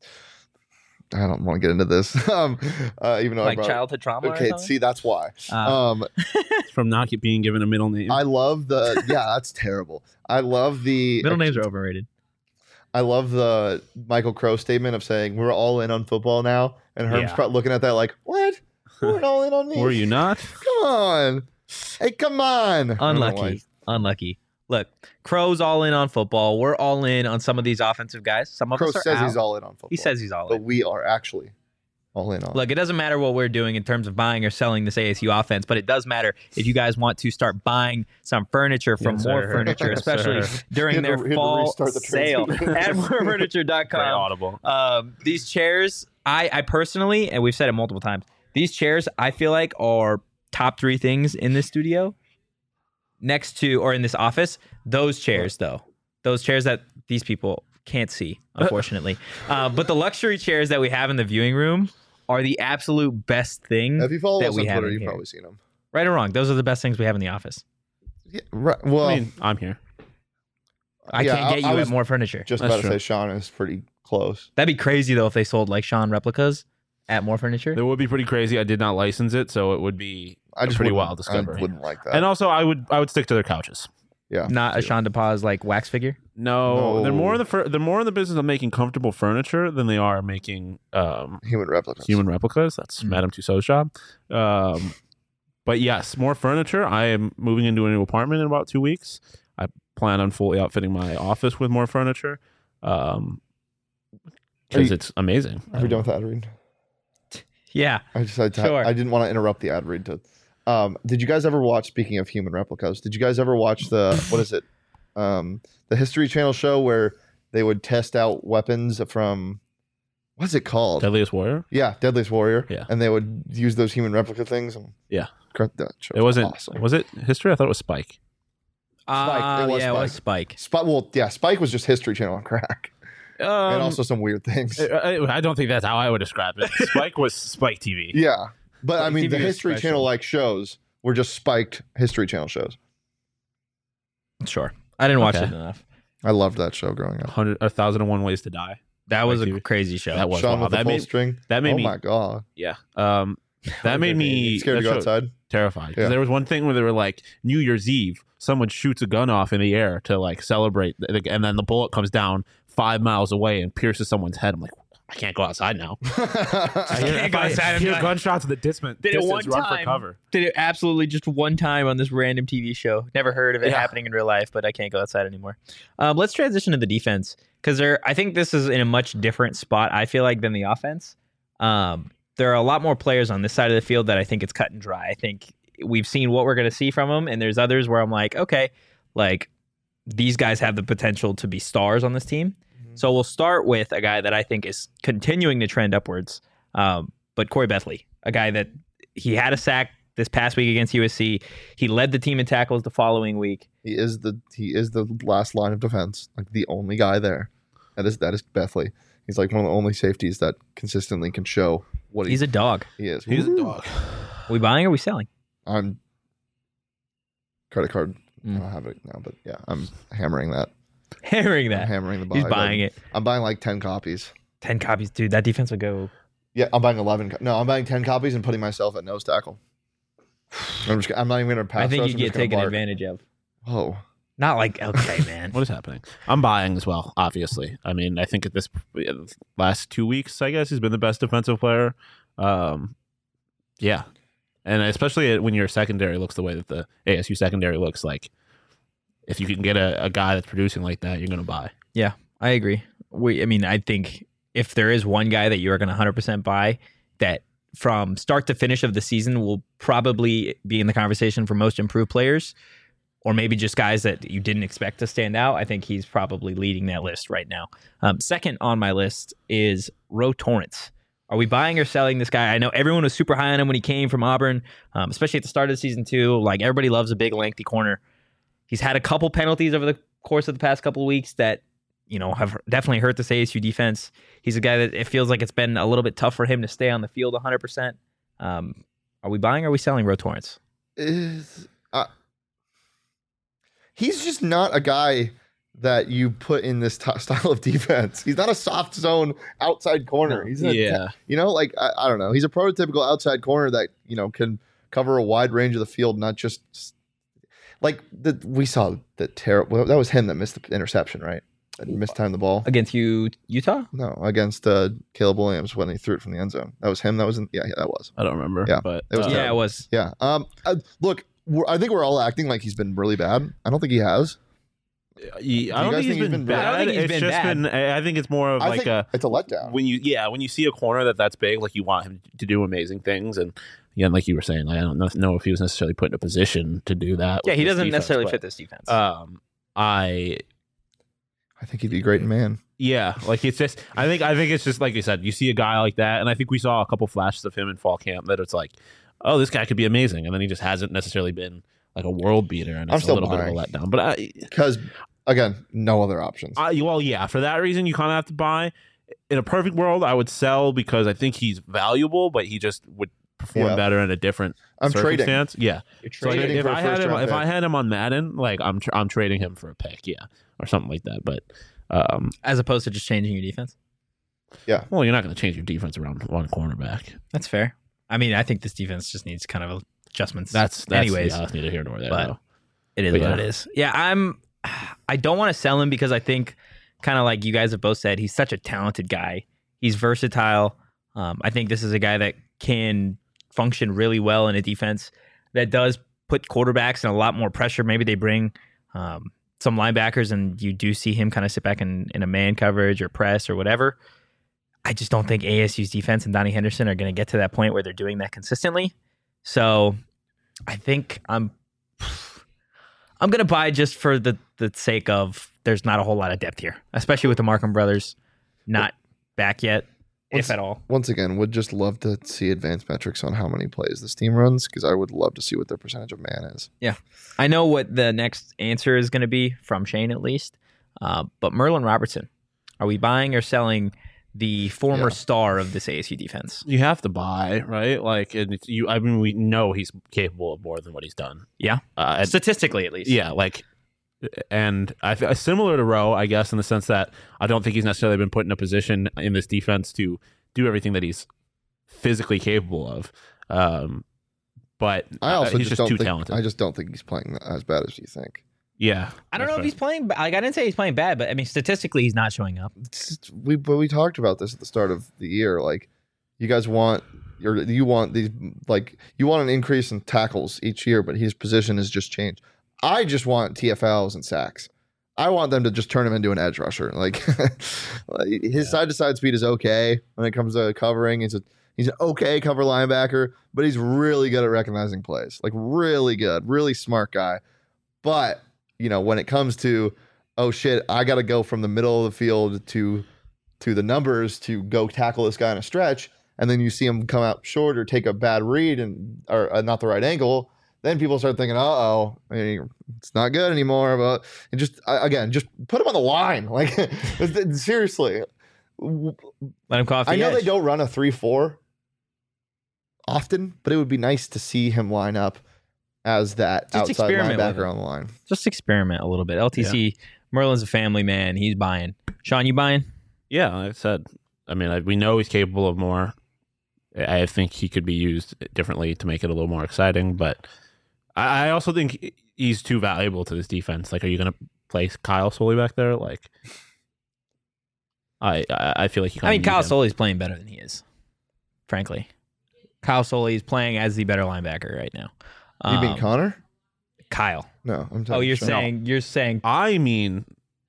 I don't want to get into this. um, uh, even though I Like brought, childhood trauma Okay, or something? see, that's why. Uh, um, It's from not being given a middle name. I love the. Yeah, that's terrible. I love the Middle names are overrated. I love the Michael Crow statement of saying we're all in on football now, and Herm's Yeah. probably looking at that like, what? We're all in on me. Were you not? Come on. Hey, come on. I don't know why. Unlucky. Unlucky. Look, Crow's all in on football. We're all in on some of these offensive guys. Some of Crow us are says out. he's all in on football. He says he's all but in. we are actually all in on. Look, it doesn't matter what we're doing in terms of buying or selling this A S U offense, but it does matter if you guys want to start buying some furniture from Yes, more sir. furniture, Yes, especially sir. during He had their to- he had to fall restart the sale transition. at more furniture dot Very com. audible. Um, these chairs, I, I personally, and we've said it multiple times, these chairs I feel like are top three things in this studio next to, or in this office. Those chairs, though, those chairs that these people can't see, unfortunately. uh, but the luxury chairs that we have in the viewing room are the absolute best thing. If you follow that us we on have Twitter, in you've here. probably seen them. Right or wrong, those are the best things we have in the office. Yeah, right. Well, I mean, I'm here. I yeah, can't get I you was at more furniture. just That's about to true. say Sean is pretty close. That'd be crazy though if they sold like Sean replicas at more furniture. That would be pretty crazy. I did not license it, so it would be I a just pretty wouldn't- wild discovery. I wouldn't like that. And also, I would I would stick to their couches. yeah, Not a Sean DePaz like wax figure. No, No. they're more in the fur- they're more in the business of making comfortable furniture than they are making um, human replicas. human replicas. That's Mm. Madame Tussauds job. Um, but yes, more furniture. I am moving into a new apartment in about two weeks. I plan on fully outfitting my office with more furniture um, Are because you- it's amazing. Are we done with the ad read? Yeah. I just I, Sure. I didn't want to interrupt the ad read. To, um, did you guys ever watch? Speaking of human replicas, did you guys ever watch the what is it? Um, the History Channel show where they would test out weapons from what's it called? Deadliest Warrior. Yeah, Deadliest Warrior. Yeah. and they would use those human replica things. And Yeah. that show It wasn't. awesome. Was it History? I thought it was Spike. Spike. Uh, It was yeah, it was Spike. Spike. Well, yeah, Spike was just History Channel on crack, Um, and also some weird things. I, I- I don't think that's how I would describe it. Spike was Spike T V. yeah, but I Spike mean, T V the was History special. Channel like shows were just spiked History Channel shows. Sure. I didn't watch Okay. it enough. I loved that show growing up. Hundred, a thousand and one ways to die. That was Spike a T V. crazy show. That was Sean wild. with the That full made string. that made Oh me. my god! Yeah. Um, that made me Scared to that go show- outside. terrified. 'Cause Yeah. There was one thing where they were like New Year's Eve, someone shoots a gun off in the air to like celebrate, and then the bullet comes down five miles away and pierces someone's head. I'm like, I can't go outside now. I hear, can't if go I outside and hear be like- gunshots in the distance. Did it distance, one run for time. cover. Did it absolutely just one time on this random T V show. Never heard of it Yeah. happening in real life, but I can't go outside anymore. Um, let's transition to the defense because there. I think this is in a much different spot. I feel like than the offense. Um, there are a lot more players on this side of the field that I think it's cut and dry. I think we've seen what we're going to see from them, and there's others where I'm like, okay, like these guys have the potential to be stars on this team. So we'll start with a guy that I think is continuing to trend upwards, um, but Corey Bethley, a guy that he had a sack this past week against U S C. He led the team in tackles the following week. He is the he is the last line of defense, like the only guy there. That is that is Bethley. He's like one of the only safeties that consistently can show what he, He's a dog. he is. He's a Woo! dog. Are we buying or are we selling? I'm credit card. Mm. I don't have it now, but yeah, I'm hammering that. Hammering I'm that. hammering the buy. He's button. buying it. I'm buying like ten copies. ten copies. Dude, that defense would go Yeah, I'm buying eleven. Co- no, I'm buying ten copies and putting myself at nose tackle. I'm just. I'm not even going to pass. I think rush, you I'm get just gonna taken bark. advantage of. Oh, Not like okay, man. What is happening? I'm buying as well, obviously. I mean, I think at this last two weeks, I guess, he's been the best defensive player. Um, yeah. And especially when your secondary looks the way that the A S U secondary looks, like if you can get a, a guy that's producing like that, you're going to buy. Yeah, I agree. We, I mean, I think if there is one guy that you're going to one hundred percent buy that from start to finish of the season will probably be in the conversation for most improved players, or maybe just guys that you didn't expect to stand out, I think he's probably leading that list right now. Um, second on my list is Ro Torrance. Are we buying or selling this guy? I know everyone was super high on him when he came from Auburn, um, especially at the start of the season too. Like everybody loves a big, lengthy corner. He's had a couple penalties over the course of the past couple of weeks that, you know, have definitely hurt this A S U defense. He's a guy that it feels like it's been a little bit tough for him to stay on the field one hundred percent. Um, are we buying or are we selling Ro Torrance? is uh, he's just not a guy that you put in this t- style of defense. He's not a soft zone outside corner. He's a, Yeah. you know, like I, I don't know. He's a prototypical outside corner that you know can cover a wide range of the field, not just like the we saw the terrible. That was him that missed the interception, right? That mistimed the ball. Against you, Utah? No, against uh, Caleb Williams when he threw it from the end zone. That was him. That was in, yeah, yeah, that was. I don't remember. Yeah. But It was uh, Yeah, it was. Yeah. Um. uh, look, we're, I think we're all acting like he's been really bad. I don't think he has. He- I Do you don't guys think he's think he's been been bad? bad. I don't think he's it's been just bad. been. I I think it's more of I like think a it's a letdown. when you yeah when you see a corner that that's big, like you want him to do amazing things, and yeah, like you were saying, like I don't know- know if he was necessarily put in a position to do that. Yeah, with he this doesn't defense, necessarily but, fit this defense. Um, I I think he'd be great in man. yeah, like it's just I think I think it's just like you said, you see a guy like that, and I think we saw a couple flashes of him in fall camp that it's like, oh, this guy could be amazing, and then he just hasn't necessarily been like a world beater, and I'm it's a still little buying. bit of a letdown. But I, Because again, no other options. I, well, yeah, for that reason, you kind of have to buy. In a perfect world, I would sell because I think he's valuable, but he just would perform Yeah. better in a different I'm trading. circumstance. Yeah, You're so like, trading if for a I had first him, round if I pick. had him on Madden, like I'm, tr- I'm trading him for a pick, yeah, or something like that. But, um, As opposed to just changing your defense. well, you're not going to change your defense around one cornerback. That's fair. I mean, I think this defense just needs kind of adjustments. That's, that's anyways. yeah, that's neither here nor there. But- though. It is But what yeah. it is. Yeah, I'm. I don't want to sell him because I think, kind of like you guys have both said, he's such a talented guy. He's versatile. Um, I think this is a guy that can function really well in a defense that does put quarterbacks in a lot more pressure. Maybe they bring um, some linebackers, and you do see him kind of sit back in, in a man coverage or press or whatever. I just don't think A S U's defense and Donnie Henderson are going to get to that point where they're doing that consistently. So I think I'm. I'm going to buy just for the, the sake of there's not a whole lot of depth here, especially with the Markham brothers not back yet, What's- if at all. Once again, would just love to see advanced metrics on how many plays this team runs because I would love to see what their percentage of man is. I know what the next answer is going to be from Shane, at least. Uh, but Merlin Robertson, are we buying or selling the former Yeah. star of this A S U defense? You have to buy, right? Like, and it's, you. I mean, we know he's capable of more than what he's done. Yeah. uh, and- Statistically, at least. Yeah, like, and I feel similar to Rowe, I guess, in the sense that I don't think he's necessarily been put in a position in this defense to do everything that he's physically capable of. Um, but I also he's just, just, don't too think, talented. I just don't think he's playing as bad as you think. yeah, I don't know that's if he's playing. Like, I didn't say he's playing bad, but I mean, statistically, he's not showing up. It's just- we but we talked about this at the start of the year. Like, you guys want your you want these like you want an increase in tackles each year, but his position has just changed. I just want T F Ls and sacks. I want them to just turn him into an edge rusher. Like, like, his side to side speed is okay when it comes to covering. He's a he's an okay cover linebacker, but he's really good at recognizing plays. Like, really good, really smart guy. But you know, when it comes to, oh shit, I got to go from the middle of the field to to the numbers to go tackle this guy in a stretch, and then you see him come out short or take a bad read and or uh, not the right angle, then people start thinking, uh oh, I mean, it's not good anymore. But and just uh, again, just put him on the line, like seriously. Let him cough. I know they don't run a three four often, but it would be nice to see him line up as that Just outside experiment with linebacker it. on the line. Just experiment a little bit. L T C, Merlin's a family man. He's buying. Sean, you buying? Yeah, like I said, I mean, I, we know he's capable of more. I I think he could be used differently to make it a little more exciting. But I I also think he's too valuable to this defense. Like, are you going to place Kyle Soley back there? Like, I I I feel like you. I mean, Kyle him. Soley's playing better than he is, frankly. Kyle Soley is playing as the better linebacker right now. You mean Um, Connor? Kyle? No, I'm talking. Oh, you're Sean. saying you're saying I mean,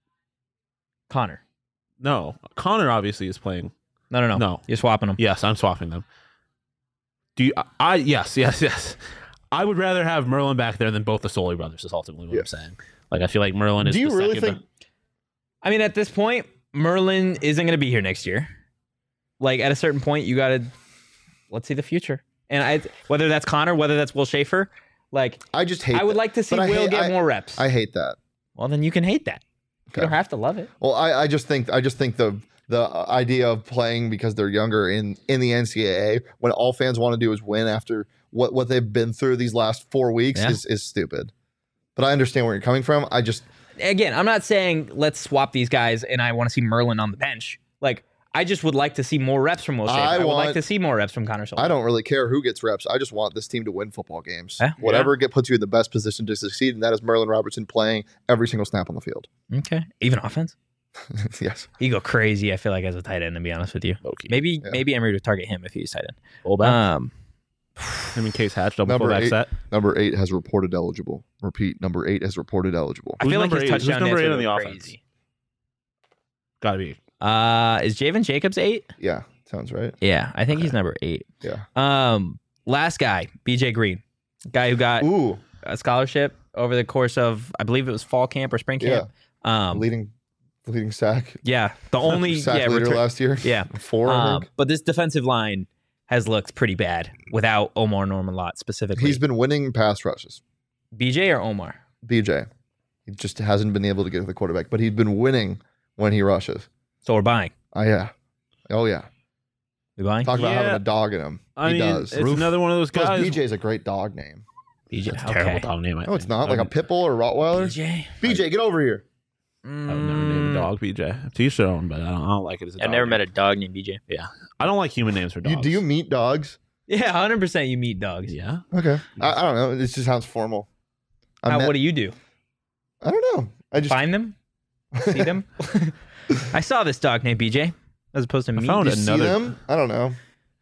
Connor? no. Connor obviously is playing. No, no, no. No. You're swapping them. Yes, I'm swapping them. Do you? I yes, yes, yes. I would rather have Merlin back there than both the Soley brothers. Is ultimately what Yeah. I'm saying. Like, I feel like Merlin is. Do you the really second think? I mean, at this point, Merlin isn't going to be here next year. Like, at a certain point, you got to let's see the future. And I, whether that's Connor, whether that's Will Schaefer, like, I just hate. I would that. like to see But I Will hate- get I- more reps. I hate that. well, then you can hate that. Okay. You don't have to love it. Well, I, I just think I just think the the idea of playing because they're younger in in the N C double A when all fans want to do is win after what what they've been through these last four weeks Yeah. is is stupid. But I understand where you're coming from. I just Again, I'm not saying let's swap these guys and I want to see Merlin on the bench. Like, I just would like to see more reps from Will Schaefer. I I, would like want- to see more reps from Connor Soley. I don't really care who gets reps. I just want this team to win football games. Yeah. Whatever get puts you in the best position to succeed, and that is Merlin Robertson playing every single snap on the field. Okay. Even offense? Yes. He go crazy, I feel like, as a tight end, to be honest with you. Low-key. Maybe Yeah. maybe Emery would target him if he was tight end. fullback. Um, I mean, Case Hatch double Number fullback eight. set. Number eight has reported eligible. Repeat, number eight has reported eligible. I Who's feel like number his eight? Who's touchdown number dance eight would on the go offense? crazy. Gotta be. Uh, is Javen Jacobs eight? Yeah, sounds right. Yeah, I think he's number eight. Yeah. Um, last guy, B J Green, guy who got Ooh, a scholarship over the course of, I believe it was fall camp or spring camp. Um, leading leading sack yeah, the only sack yeah, leader return- last year. yeah. Four, I Um, think. but this defensive line has looked pretty bad without Omar Norman Lott specifically. He's been winning pass rushes. B J or Omar? B J. He just hasn't been able to get to the quarterback, but he's been winning when he rushes. So we're buying. Oh yeah. Oh yeah. We buying? Talk about Yeah. having a dog in him. I he mean, does. it's another one of those Plus, guys. B J's a great dog name. B J. That's a Okay. terrible dog name. I No, it's think. not. I Like a would- pit bull or Rottweiler. B J. B J, get over here. I would never name a dog B J. To each their own, but I don't, I don't like it as a I've dog never name. met a dog named B J. I don't like human names for dogs. You, do you meet dogs? Yeah, one hundred percent you meet dogs. Yeah. Okay. I, I don't know. It just sounds formal. I, How, met- what do you do? I don't know. I just Find them? See them? I saw this dog named B J as opposed to I me. found you it. see another- them. I don't know.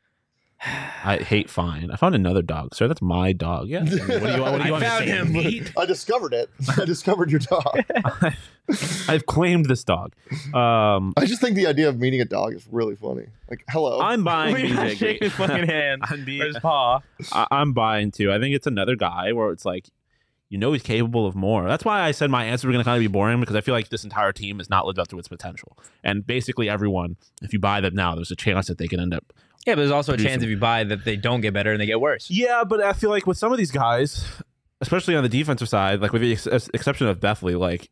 I hate find. I found another dog, sir. That's my dog. Yeah. I mean, what do you, what do you I want me to found say? him. Meat? I discovered it. I discovered your dog. I've claimed this dog. Um, I just think the idea of meeting a dog is really funny. Like, hello. I'm buying We're B not J shaking Green. his fucking hand. I'm, being- Or his paw. I, I'm buying too. I think it's another guy where it's like, you know, he's capable of more. That's why I said my answer was going to kind of be boring because I feel like this entire team has not lived up to its potential. And basically, everyone, if you buy them now, there's a chance that they can end up. Yeah, but there's also a chance Producing. if you buy that they don't get better and they get worse. Yeah, but I feel like with some of these guys, especially on the defensive side, like with the ex- exception of Bethley, like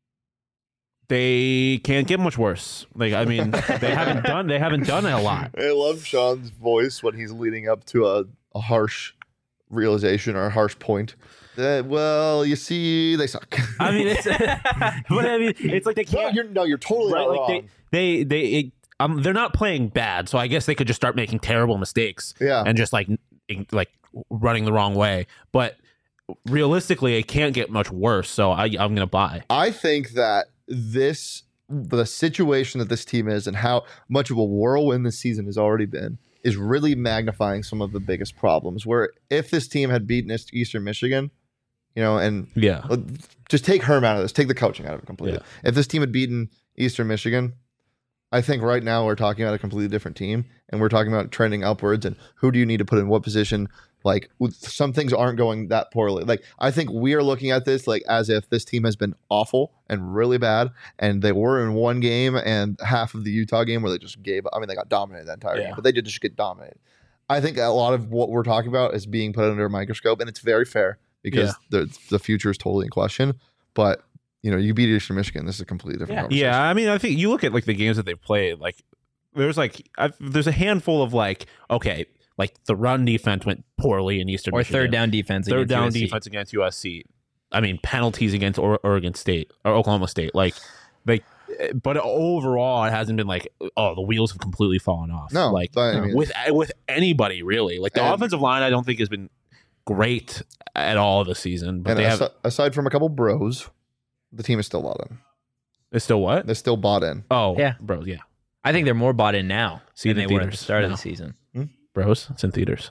they can't get much worse. Like I mean, they haven't done they haven't done it a lot. I love Sean's voice when he's leading up to a, a harsh realization or a harsh point. That, well, you see, they suck. I mean, it's but I mean, it's like they no, can't. you're no, you're totally Right, not like wrong. they they they it, um they're not playing bad, so I guess they could just start making terrible mistakes yeah, and just like n- like running the wrong way. But realistically, it can't get much worse. So I, I'm gonna buy. I think that this the situation that this team is and how much of a whirlwind this season has already been is really magnifying some of the biggest problems. Where if this team had beaten East- Eastern Michigan, you know, and Yeah, uh, just take Herm out of this, take the coaching out of it completely. If this team had beaten Eastern Michigan, I think right now we're talking about a completely different team, and we're talking about trending upwards. And who do you need to put in what position? Like some things aren't going that poorly. Like I think we are looking at this like as if this team has been awful and really bad, and they were in one game and half of the Utah game where they just gave. I mean, they got dominated that entire Yeah. game, but they did just get dominated. I think a lot of what we're talking about is being put under a microscope, and it's very fair because the the future is totally in question. But you know, you beat Eastern Michigan. This is a completely different conversation. yeah. I mean, I think you look at like the games that they've played. Like there's like I've, there's a handful of like okay, like the run defense went poorly in Eastern Or Michigan. third down defense. third against down U S C. defense against U S C. I mean, penalties against or- Oregon State or Oklahoma State. Like, like but overall, it hasn't been like, oh, the wheels have completely fallen off. No, like but I mean- with with anybody really. Like the And- offensive line, I don't think has been great at all this season. But And they asi- have aside from a couple bros, the team is still bought in. it's still what? They're still bought in. Oh, Yeah. bros, yeah, I think they're more bought in now See than the they were at the theaters start of now. the season. bros. It's in theaters.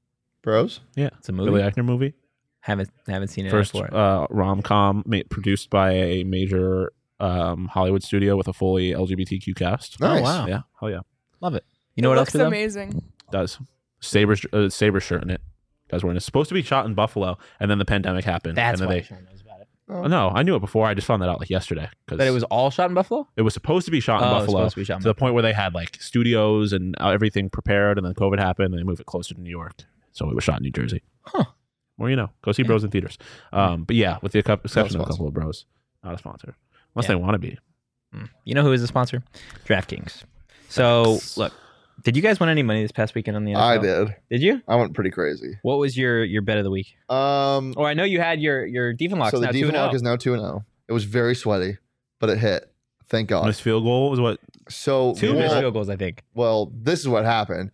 Bros? Yeah, It's a movie. Billy Eichner movie. Haven't haven't seen it First for it. uh, rom com produced by a major um, Hollywood studio with a fully L G B T Q cast. Nice. Oh wow, Yeah, hell yeah, love it. You know it what else? looks For them? amazing. does Sabres uh, Sabre shirt in it. Guys, we're in. It's supposed to be shot in Buffalo, and then the pandemic happened. That's and why then Sean knows about it. Oh. they. No, I knew it before. I just found that out like yesterday because That it was all shot in Buffalo. it was supposed to be shot in Oh, it was Buffalo supposed to be shot in to the point where they had like studios and uh, everything prepared, and then COVID happened, and they moved it closer to New York, so it was shot in New Jersey. Huh. Well, you know, go see Bros in theaters. Um, but yeah, with the exception of a sponsor. couple of Bros, not a sponsor, unless Yeah. they want to be. Mm. You know who is the sponsor? DraftKings. So Thanks. look, did you guys win any money this past weekend on the N F L? I did. Did you? I went pretty crazy. What was your your bet of the week? Um, Or I know you had your your Diefenlocks so the now two and Diefenlock oh. is now two and zero. It was very sweaty, but it hit. Thank God. This field goal was what? So Two well, missed field goals, I think. well, this is what happened.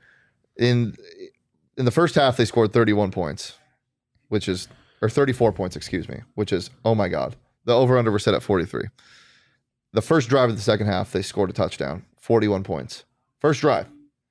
In in the first half, they scored thirty-one points, which is or thirty-four points, excuse me, which is oh my God. The over under were set at forty-three. The first drive of the second half, they scored a touchdown, forty-one points. First drive,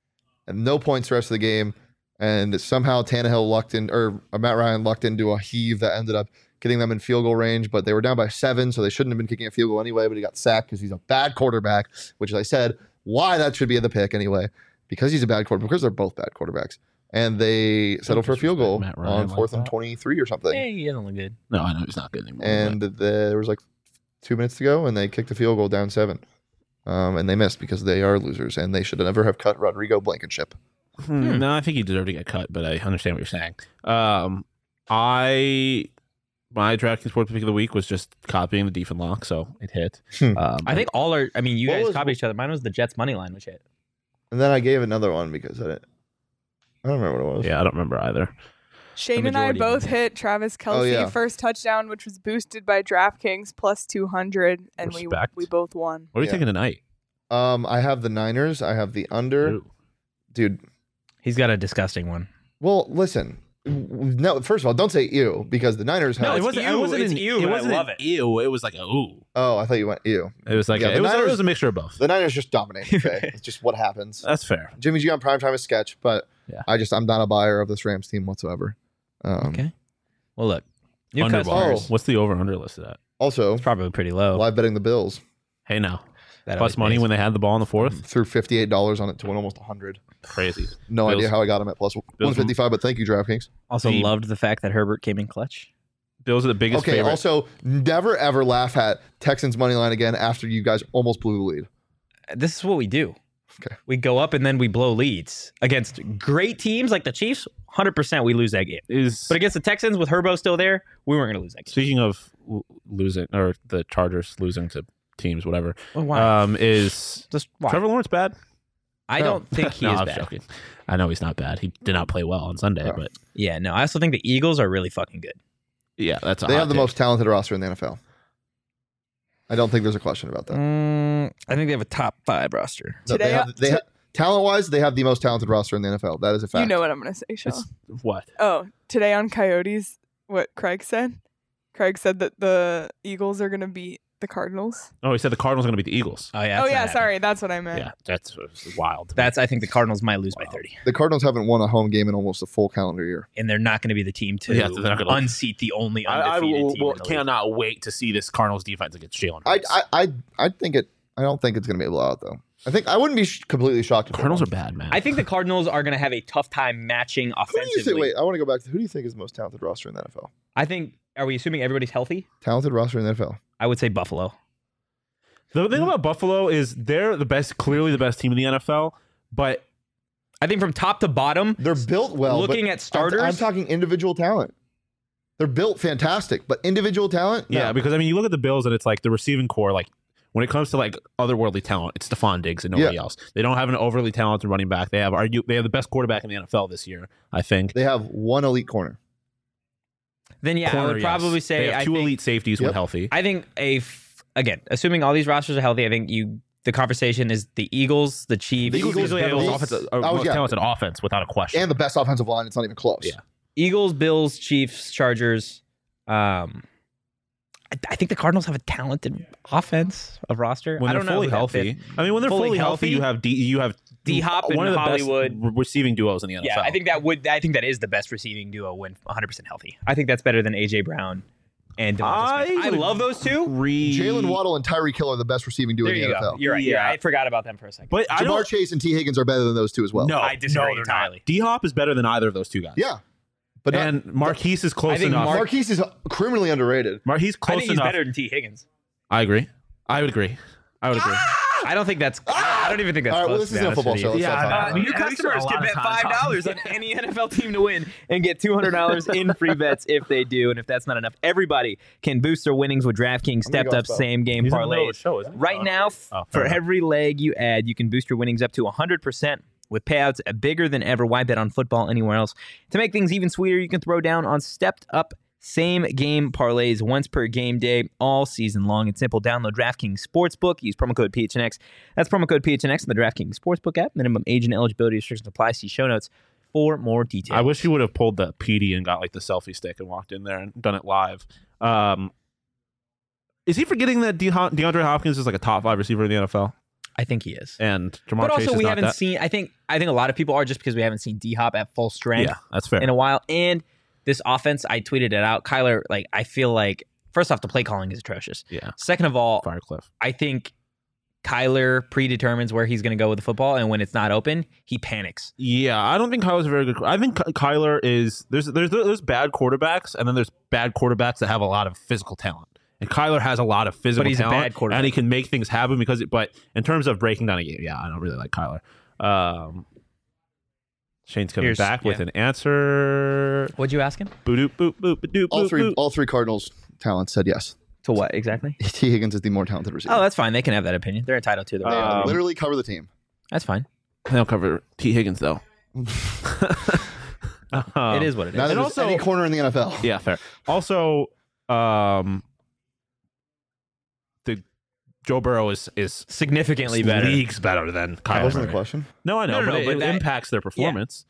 and no points the rest of the game. And somehow Tannehill lucked in, or Matt Ryan lucked into a heave that ended up getting them in field goal range. But they were down by seven, so they shouldn't have been kicking a field goal anyway. But he got sacked because he's a bad quarterback, which, as I said, why that should be in the pick anyway, because he's a bad quarterback. Because they're both bad quarterbacks, and they settled for a field goal disrespect Matt Ryan on like fourth and that. twenty-three or something. Hey, he doesn't look good. No, I know he's not good anymore. And the, there was like two minutes to go, and they kicked a field goal down seven. Um, and they missed because they are losers, and they should never have cut Rodrigo Blankenship. but- Hmm, no, I think he deserved to get cut, but I understand what you're saying. Um, I my DraftKings sports pick of the week was just copying the Diefenlock, so it hit. Hmm. Um, I think all our. I mean, you What guys was- copied each other. Mine was the Jets money line, which hit. And then I gave another one because I didn't. I don't remember what it was. yeah, I don't remember either. Shane and I majority of both hit Travis Kelsey Oh, yeah. first touchdown, which was boosted by DraftKings plus two hundred, and Respect. we we both won. What are you Yeah. taking tonight? Um, I have the Niners. I have the under. Ooh. Dude, He's got a disgusting one. well, listen. No, first of all, don't say ew because the Niners have. No, it it's wasn't. ew, It wasn't it's an ew, It but I wasn't love an it. Ew. It was like a ooh. oh, I thought you went ew. It was like Yeah, a, the it was. Niners- it was a mixture of both. The Niners just dominate. Okay, it's just what happens. That's fair. Jimmy G on primetime is sketch, but Yeah. I just I'm not a buyer of this Rams team whatsoever. Um, Okay. Well, look, new Under customers. Oh. What's the over under listed at? Also, It's probably pretty low. live betting the Bills Hey now, That plus always money pays. when they had the ball in the fourth. threw fifty-eight dollars on it to win almost one hundred. Crazy. No Bills- idea how I got him at plus one fifty-five, but thank you, DraftKings. Also the- loved the fact that Herbert came in clutch. Bills are the biggest Okay, favorite. also, never ever laugh at Texans money line again after you guys almost blew the lead. This is what we do. Okay. We go up and then we blow leads against great teams like the Chiefs. one hundred percent we lose that game. is But against the Texans with Herbo still there, we weren't going to lose that game. speaking of l- losing or the Chargers losing to teams, whatever. Well, why? Um, is Just why? Trevor Lawrence bad? I No. don't think he no, is I'm bad. joking. I know he's not bad. He did not play well on Sunday, No. but Yeah, no. I also think the Eagles are really fucking good. yeah, that's a They hot have the take. most talented roster in the N F L. I don't think there's a question about that. Mm, I think they have a top five roster. No, they Today- have, they to- have, talent-wise, they have the most talented roster in the N F L. That is a fact. You know what I'm gonna say, Sean. It's what? Oh, today on Coyotes, what Craig said. Craig said that the Eagles are gonna beat the Cardinals. Oh, he said the Cardinals are going to beat the Eagles. Oh yeah. oh that's not yeah, happening. sorry, that's what I meant. Yeah, that's wild. That's. I think the Cardinals might lose by Wow. thirty, The Cardinals haven't won a home game in almost a full calendar year. and they're not going to be the team to Yeah, they're not gonna- unseat the only I, I undefeated will, team. will- in the league. cannot wait to see this Cardinals defense against Jalen I, Hurts. I, I, I think it. I don't think it's going to be a blowout though. I think I wouldn't be sh- completely shocked. If they Cardinals won. are bad, man. I think the Cardinals are going to have a tough time matching Who do you offensively. think? Wait, I want to go back to who do you think is the most talented roster in the N F L? I think. Are we assuming everybody's healthy? Talented roster in the N F L. I would say Buffalo. the thing about Buffalo is they're the best, clearly the best team in the N F L, but I think from top to bottom, They're built well. but looking at I'm- starters, I'm, talking individual talent. They're built fantastic, but individual talent, no. yeah, because I mean, you look at the Bills and it's like the receiving core, like when it comes to like otherworldly talent, it's Stephon Diggs and nobody Yeah. else. They don't have an overly talented running back. They have argue they have the best quarterback in the N F L this year, I think. They have one elite corner. then yeah, I Corner, would yes. probably say they have I two think, elite safeties when Yep. healthy. I think a f- again, assuming all these rosters are healthy, I think you the conversation is the Eagles, the Chiefs. The Eagles usually have the Bills. most offensive, uh, Oh, most yeah. talented offense without a question. And the best offensive line. It's not even close. Yeah. Eagles, Bills, Chiefs, Chargers. Um, I, I think the Cardinals have a talented offense of roster. when I they're don't know fully who that healthy. fits. I mean, when they're Fully fully, healthy, healthy, you have D, you have D-Hop one and of the Hollywood. best re- receiving duos in the N F L. Yeah, I think that would. I think that is the best receiving duo when one hundred percent healthy. I think that's better than A J Brown and Devonta Smith. I I would love those two. Re- Jalen Waddle and Tyreek Hill are the best receiving duo There in the you N F L. go. You're right. You're Yeah. right. I forgot about them for a second. But I Jamar don't. Chase and T. Higgins are better than those two as well. No, I disagree no, they're entirely. not. D Hop is better than either of those two guys. Yeah. But not, and Marquise is close I think enough. Mark- Marquise is criminally underrated. Mar- he's I close think he's enough. better than T. Higgins. I agree. I would agree. I would agree. I don't think that's. I don't even think that's All right, well, close. this to be isn't a honest football with show. you. Let's Yeah, not talk I about know. it. New Yeah, we spent a customers lot can of bet time five talking dollars on about any N F L team to win and get two hundred dollars in free bets if they do. And if that's not enough, everybody can boost their winnings with DraftKings I'm gonna stepped go up spell. same game He's in the middle of parlays. the show, isn't he? Right Oh. now, f- Oh, for fair enough. every leg you add, you can boost your winnings up to one hundred percent with payouts bigger than ever. Why bet on football anywhere else? To make things even sweeter, you can throw down on stepped up same game parlays once per game day all season long. It's simple. Download DraftKings Sportsbook. Use promo code P H N X. That's promo code P H N X in the DraftKings Sportsbook app. Minimum age and eligibility restrictions apply. See show notes for more details. I wish he would have pulled the P D and got like the selfie stick and walked in there and done it live. Um, is he forgetting that De- DeAndre Hopkins is like a top five receiver in the N F L? I think he is. And Jamar But Chase also, is we not haven't that? seen. I think. I think a lot of people are just because we haven't seen D Hop at full strength Yeah, that's fair. in a while. And this offense, I tweeted it out. Kyler, like, I feel like first off, the play calling is atrocious. yeah, Second of all, Firecliff. I think Kyler predetermines where he's going to go with the football, and when it's not open, he panics. Yeah, I don't think Kyler's a very good. I think Ky- Kyler is there's there's there's bad quarterbacks, and then there's bad quarterbacks that have a lot of physical talent. And Kyler has a lot of physical But he's a talent, bad quarterback. and he can make things happen because. It, but in terms of breaking down a game, yeah, I don't really like Kyler. Um, Shane's coming Here's- back with yeah. an answer. What'd you ask him? Boop boop boop boop All boop. three, boop. all three Cardinals talents said yes. To what exactly? T. Higgins is the more talented receiver. Oh, that's fine. They can have that opinion. They're entitled to. They Their Um, literally cover the team. That's fine. They don't cover T Higgins though. Um, It is what it is. Neither and does also- any corner in the N F L. Yeah, fair. Also, um, the Joe Burrow is is Significantly better. leagues better than That Kyler. wasn't the Murray. question. No, I know, No, no, but, no, it, but it that- impacts their performance.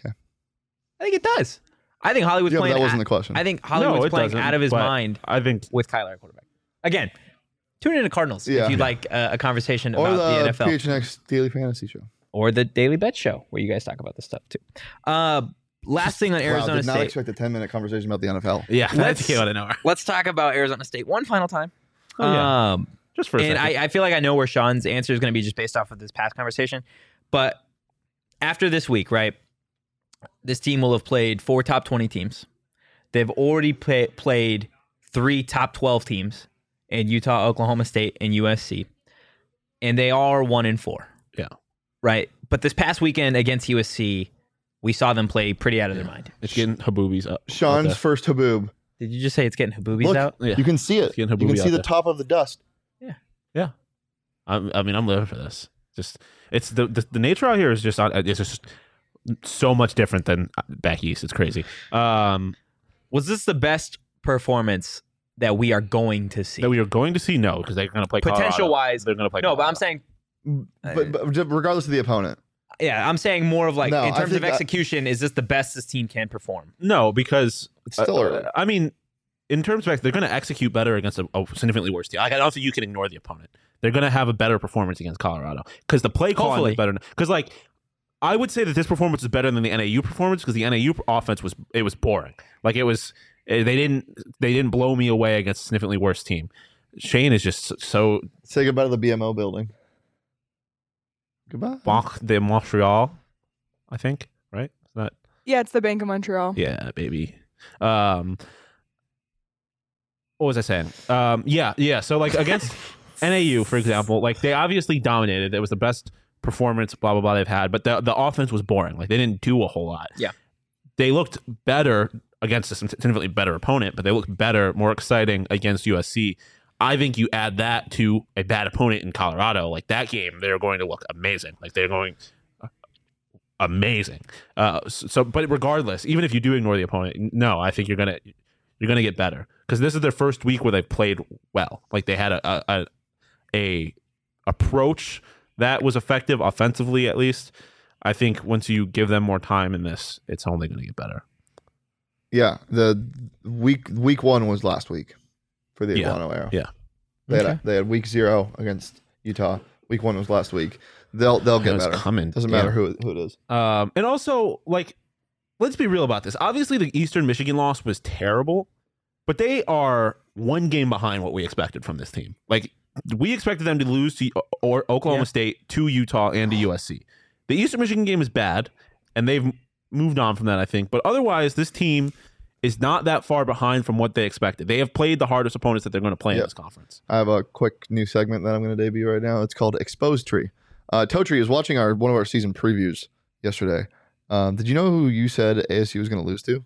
I think it does. I think Hollywood's Yeah, but playing. that wasn't a- the question. I think Hollywood's No, it playing doesn't, out of his but mind I think with Kyler at quarterback. Again, tune in to Cardinals Yeah. if you'd like uh, a conversation or about the, the, N F L P H N X Daily Fantasy Show. or the Daily Bet Show where you guys talk about this stuff too. Uh, last thing on Wow, Arizona did not State. expect a ten minute conversation about the N F L. yeah, Let's- that's came out of nowhere. Let's talk about Arizona State one final time. Oh, yeah. Um, Just for a and second. I, I feel like I know where Sean's answer is going to be just based off of this past conversation. But after this week, right, this team will have played four top twenty teams. They've already play, played three top twelve teams in Utah, Oklahoma State, and U S C. And they are one and four. Yeah. Right. But this past weekend against U S C, we saw them play pretty out of their mind. it's getting Haboobies up. Sean's Okay. first Haboob. Did you just say it's getting Haboobies Look, out? Yeah. you can see it. It's getting You can Haboobi see out the there. top of the dust. I'm, I mean, I'm living for this. Just it's the the, the nature out here is just it's just so much different than back east. It's crazy. Um, Was this the best performance that we are going to see? that we are going to see no because they're going to play Potential Colorado. wise, They're going to play. no, but I'm Colorado. saying, But, but regardless of the opponent, yeah, I'm saying more of like No, in I terms of think that- execution, is this the best this team can perform? no because it's still uh, early. I mean, in terms of they're going to execute better against a, a significantly worse team. Like, I don't think you can ignore the opponent. They're going to have a better performance against Colorado because the play calling Hopefully. is better. Because like I would say that this performance is better than the N A U performance because the N A U offense was it was boring. Like it was eh, they didn't they didn't blow me away against a significantly worse team. Shane is just so Say goodbye to the B M O building. Goodbye. Banque de Montreal, I think, right? Is that Yeah, it's the Bank of Montreal. yeah, baby. Um, what was I saying? Um, yeah, yeah. So like against N A U, for example, like they obviously dominated. It was the best performance, blah blah blah they've had, but the the offense was boring. Like they didn't do a whole lot. Yeah. They looked better against a significantly better opponent, but they looked better, more exciting against U S C. I think you add that to a bad opponent in Colorado, like that game, they're going to look amazing. Like they're going amazing. Uh, so, so, but regardless, even if you do ignore the opponent, no, I think you're gonna you're going to get better because this is their first week where they've played well. Like they had a a, a a approach that was effective offensively, at least. I think once you give them more time in this, it's only going to get better. Yeah, the week week one was last week for the Yeah. Iguano era. Yeah. They Okay. had they had week zero against Utah. Week one was last week. They'll they'll get It's better. coming. Doesn't Yeah. matter who who it is. Um, and also, like, let's be real about this. Obviously, the Eastern Michigan loss was terrible, but they are one game behind what we expected from this team. Like, we expected them to lose to or Oklahoma Yeah. State, to Utah, and to U S C. The Eastern Michigan game is bad, and they've moved on from that, I think. But otherwise, this team is not that far behind from what they expected. They have played the hardest opponents that they're going to play in Yep. this conference. I have a quick new segment that I'm going to debut right now. It's called Exposed Tree. Uh, Totri is watching our one of our season previews yesterday. Um, did you know who you said A S U was going to lose to?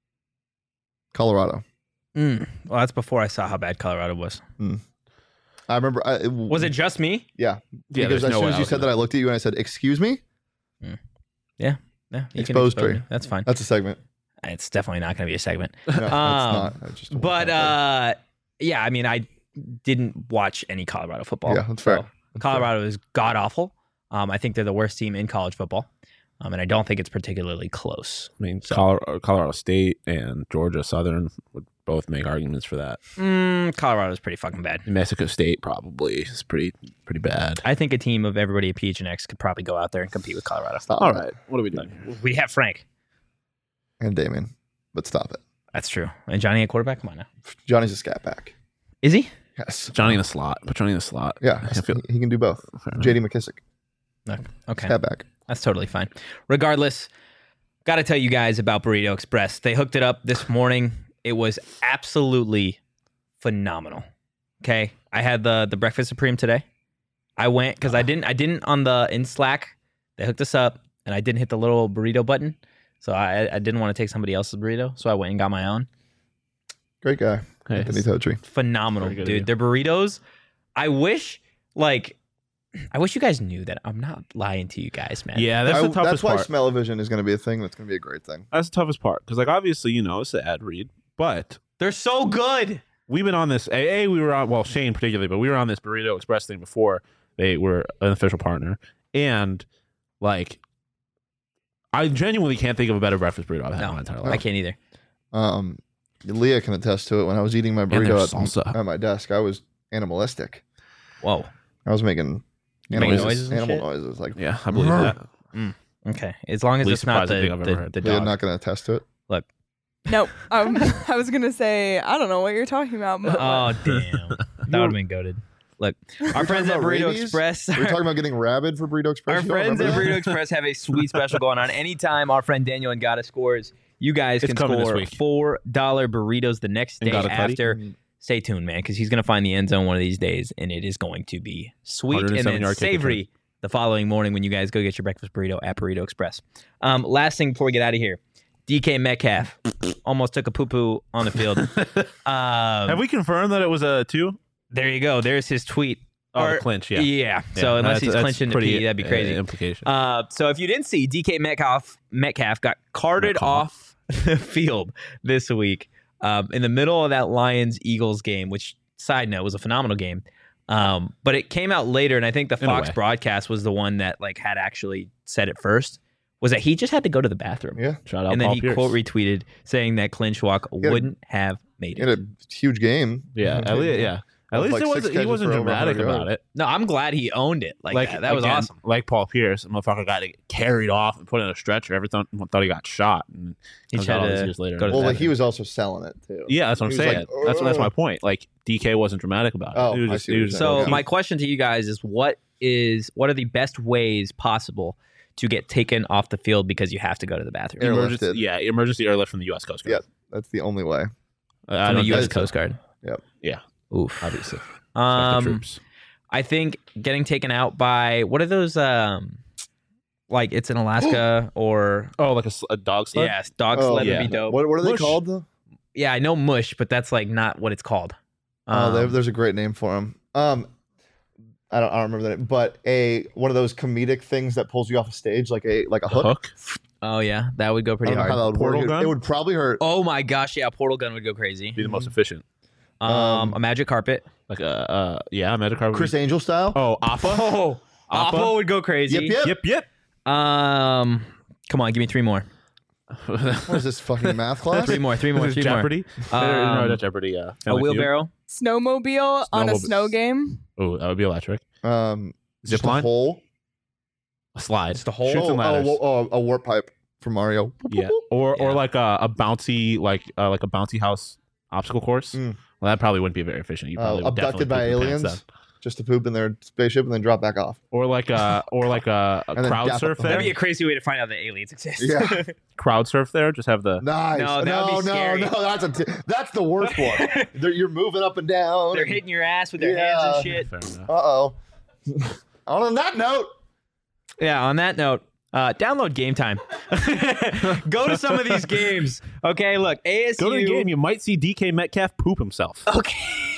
Colorado. Mm. Well, that's before I saw how bad Colorado was. I remember. I, it, Was it just me? Yeah. Yeah, because there's as no soon way as I you was said gonna- that, I looked at you and I said, "Excuse me." Yeah, you can Exposed expose tree. me. That's fine. That's a segment. It's definitely not going to be a segment. No, it's Um, not. I just don't But want that. uh, yeah, I mean, I didn't watch any Colorado football. Yeah, that's fair. so That's fair. Colorado is god awful. Um, I think they're the worst team in college football, um, and I don't think it's particularly close. I mean, So- Colorado, Colorado State and Georgia Southern would both make arguments for that. Mm, Colorado is pretty fucking bad. Mexico State probably is pretty pretty bad. I think a team of everybody at P H N X could probably go out there and compete with Colorado. Stop All it. right, what are we doing? We have Frank. And Damien, but stop it. That's true. And Johnny at quarterback. Come on now. Johnny's a scat back. Is he? Yes. Johnny in the slot. Put Johnny in the slot. Yeah, I feel- he, he can do both. Fair enough. J D McKissick, No. Okay. scat back. That's totally fine. Regardless, got to tell you guys about Burrito Express. They hooked it up this morning. It was absolutely phenomenal. Okay, I had the the breakfast supreme today. I went because I didn't I didn't on the in Slack. They hooked us up, and I didn't hit the little burrito button, so I I didn't want to take somebody else's burrito, so I went and got my own. Great guy, Hey, Anthony Totri. Phenomenal, Very good of dude. you. Their burritos. I wish like. I wish you guys knew that I'm not lying to you guys, man. yeah, that's I- the toughest that's why part. smell-o-vision is going to be a thing. That's going to be a great thing. That's the toughest part because, like, obviously, you know, it's the ad read, but They're so good. we've been on this. A, a we were on. Well, Shane particularly, but we were on this Burrito Express thing before they were an official partner, and like, I genuinely can't think of a better breakfast burrito I've had in No, my entire I life. can't either. Um, Leah can attest to it. When I was eating my there's burrito at, salsa. at my desk, I was animalistic. Whoa. I was making You making animal noises and animal shit? noises. Like, Yeah, I believe that. Okay. As long as Least it's not surprising the, thing I've the, ever heard. the Leah dog. not going to attest to it. No, um, I was gonna say I don't know what you're talking about. But Oh, damn. That would have been goaded. Look, our friends at about Burrito rabies? Express. We were talking about getting rabid for Burrito Express. Our You don't friends at remember Burrito that? Express have a sweet special going on. Anytime our friend Daniel Ngata scores, you guys It's can coming this score week. four dollar burritos the next day Ngata Cuddy? after. Stay tuned, man, because he's going to find the end zone one of these days, and it is going to be sweet and 107 then yard kick savory the following morning when you guys go get your breakfast burrito at Burrito Express. Um, last thing before we get out of here, D K Metcalf almost took a poo-poo on the field. Um, Have we confirmed that it was a two? There you go. There's his tweet. Oh, Or- the clinch. Yeah. Yeah. So Yeah, unless that's- he's that's clinching the pretty, P, that'd be uh, crazy. implication. Uh, so if you didn't see, D K Metcalf Metcalf got carted Metcalf. off the field this week um, in the middle of that Lions Eagles game, which side note was a phenomenal game. Um, but it came out later, and I think the In a Fox way. broadcast was the one that like had actually said it first. Was that he just had to go to the bathroom, Yeah, Shout out and then Paul he Pierce. quote retweeted saying that Clinch Walk had a- wouldn't have made he it. had a huge game. Yeah, at least, yeah. At With least like it six wasn't, he catches wasn't for over dramatic one hundred about yards. it. No, I'm glad he owned it like, that. That was again, awesome. Like Paul Pierce, the motherfucker got carried off and put in a stretcher. Everyone thought he got shot. And He comes tried out all to these years later. go to Well, the like he was also selling it too. yeah, that's what I'm He was saying. like, that's that's my "Ugh." point. Like D K wasn't dramatic about it. Oh, he was I just, see he what was you're just- So Okay. my question to you guys is what is what are the best ways possible to get taken off the field because you have to go to the bathroom? Airlifted. emergency, yeah, emergency airlift from the U S Coast Guard. Yeah. That's the only way. Uh, I From the don't U S think- Coast Guard. Yep. Yeah, Oof. obviously. Um, the troops. I think getting taken out by what are those? Um, like it's in Alaska or Oh, like a, s- a dog sled. yeah, dog Oh, sled yeah. would be dope. What, what are they Mush. called though? Yeah, I know mush, but that's like not what it's called. Oh, they- Um, there's a great name for them. Um, I don't, I don't remember that, name, but a one of those comedic things that pulls you off a stage, like a like a A hook. hook. Oh yeah, that would go I pretty don't know how hard. that would Portal work. It- gun? It would probably hurt. Oh my gosh, yeah, portal gun would go crazy. Be the most efficient. Um, Um, a magic carpet. Like uh, uh yeah, Magic Card. Chris Angel style. Oh, Appa. Oh, Appa? Appa would go crazy. Yep, yep. Yep, yep. Um, come on, give me three more. What is this fucking math class? Three more. Three more. This is Three Jeopardy. more. no, Um, not Jeopardy. Uh, a Family Feud. wheelbarrow. Snowmobile on a Snowmob- snow game. Oh, that would be electric. Um, Zip just a line? hole. A slide. Just a hole? Shoots Oh, and oh, ladders. oh, oh, a warp pipe from Mario. Yeah, or Yeah. or like a, a bouncy like uh, like a bouncy house obstacle course. Mm. Well, that probably wouldn't be very efficient. You Uh, probably would definitely abducted by poop your pants aliens, then. just to poop in their spaceship and then drop back off. Or like a or like a, a And then crowd gap surf up. there. That'd be a crazy way to find out that aliens exist. Yeah. Crowd surf there. Just have the Nice. No, that no, would be no, scary. no. That's a t- that's the worst one. They're, you're moving up and down. They're hitting your ass with their hands and shit. Fair enough. Uh oh. On that note, Yeah, on that note, uh, download Game Time. Go to some of these games. Okay, look, A S U. Go to the game. You might see D K Metcalf poop himself. Okay.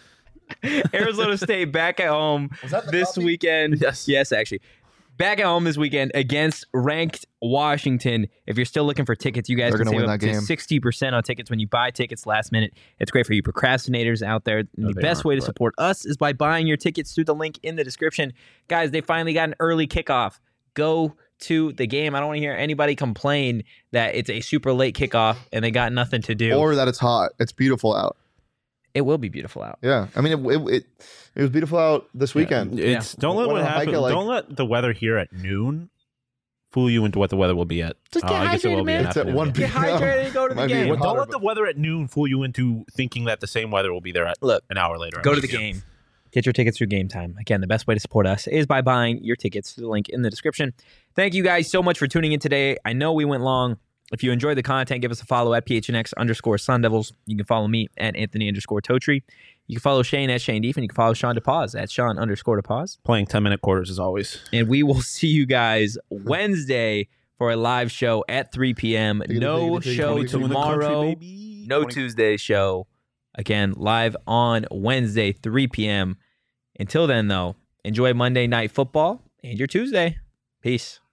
Arizona State back at home Was that the this copy? weekend. Yes. Yes, actually. Back at home this weekend against ranked Washington. If you're still looking for tickets, you guys They're can gonna save win up that to game. sixty percent on tickets when you buy tickets last minute. It's great for you procrastinators out there. No, the they best aren't, way to but- support us is by buying your tickets through the link in the description. Guys, they finally got an early kickoff. Go to the game. I don't want to hear anybody complain that it's a super late kickoff and they got nothing to do. or that it's hot. It's beautiful out. It will be beautiful out. Yeah. I mean, it it, it, it was beautiful out this weekend. It's don't let Went what on a hike happen. at, like- Don't let the weather here at noon fool you into what the weather will be at. Just Uh, get I guess it hydrated, will be man. an It's at afternoon one game. p.m. Get hydrated and go to the Might be game. even Well, don't hotter, let the weather at noon fool you into thinking that the same weather will be there at Look, an hour later. go to the game. Get your tickets through Game Time. Again, the best way to support us is by buying your tickets through the link in the description. Thank you guys so much for tuning in today. I know we went long. If you enjoyed the content, give us a follow at P H N X underscore Sun Devils. You can follow me at Anthony underscore Totri. You can follow Shane at Shane Deef, and you can follow Sean DePause at Sean underscore DePause. Playing ten minute quarters as always. And we will see you guys Wednesday for a live show at three p.m. Take it, No take it, take it, show take it. tomorrow. No Tuesday show. Again, live on Wednesday, three p.m. Until then, though, enjoy Monday Night Football and your Tuesday. Peace.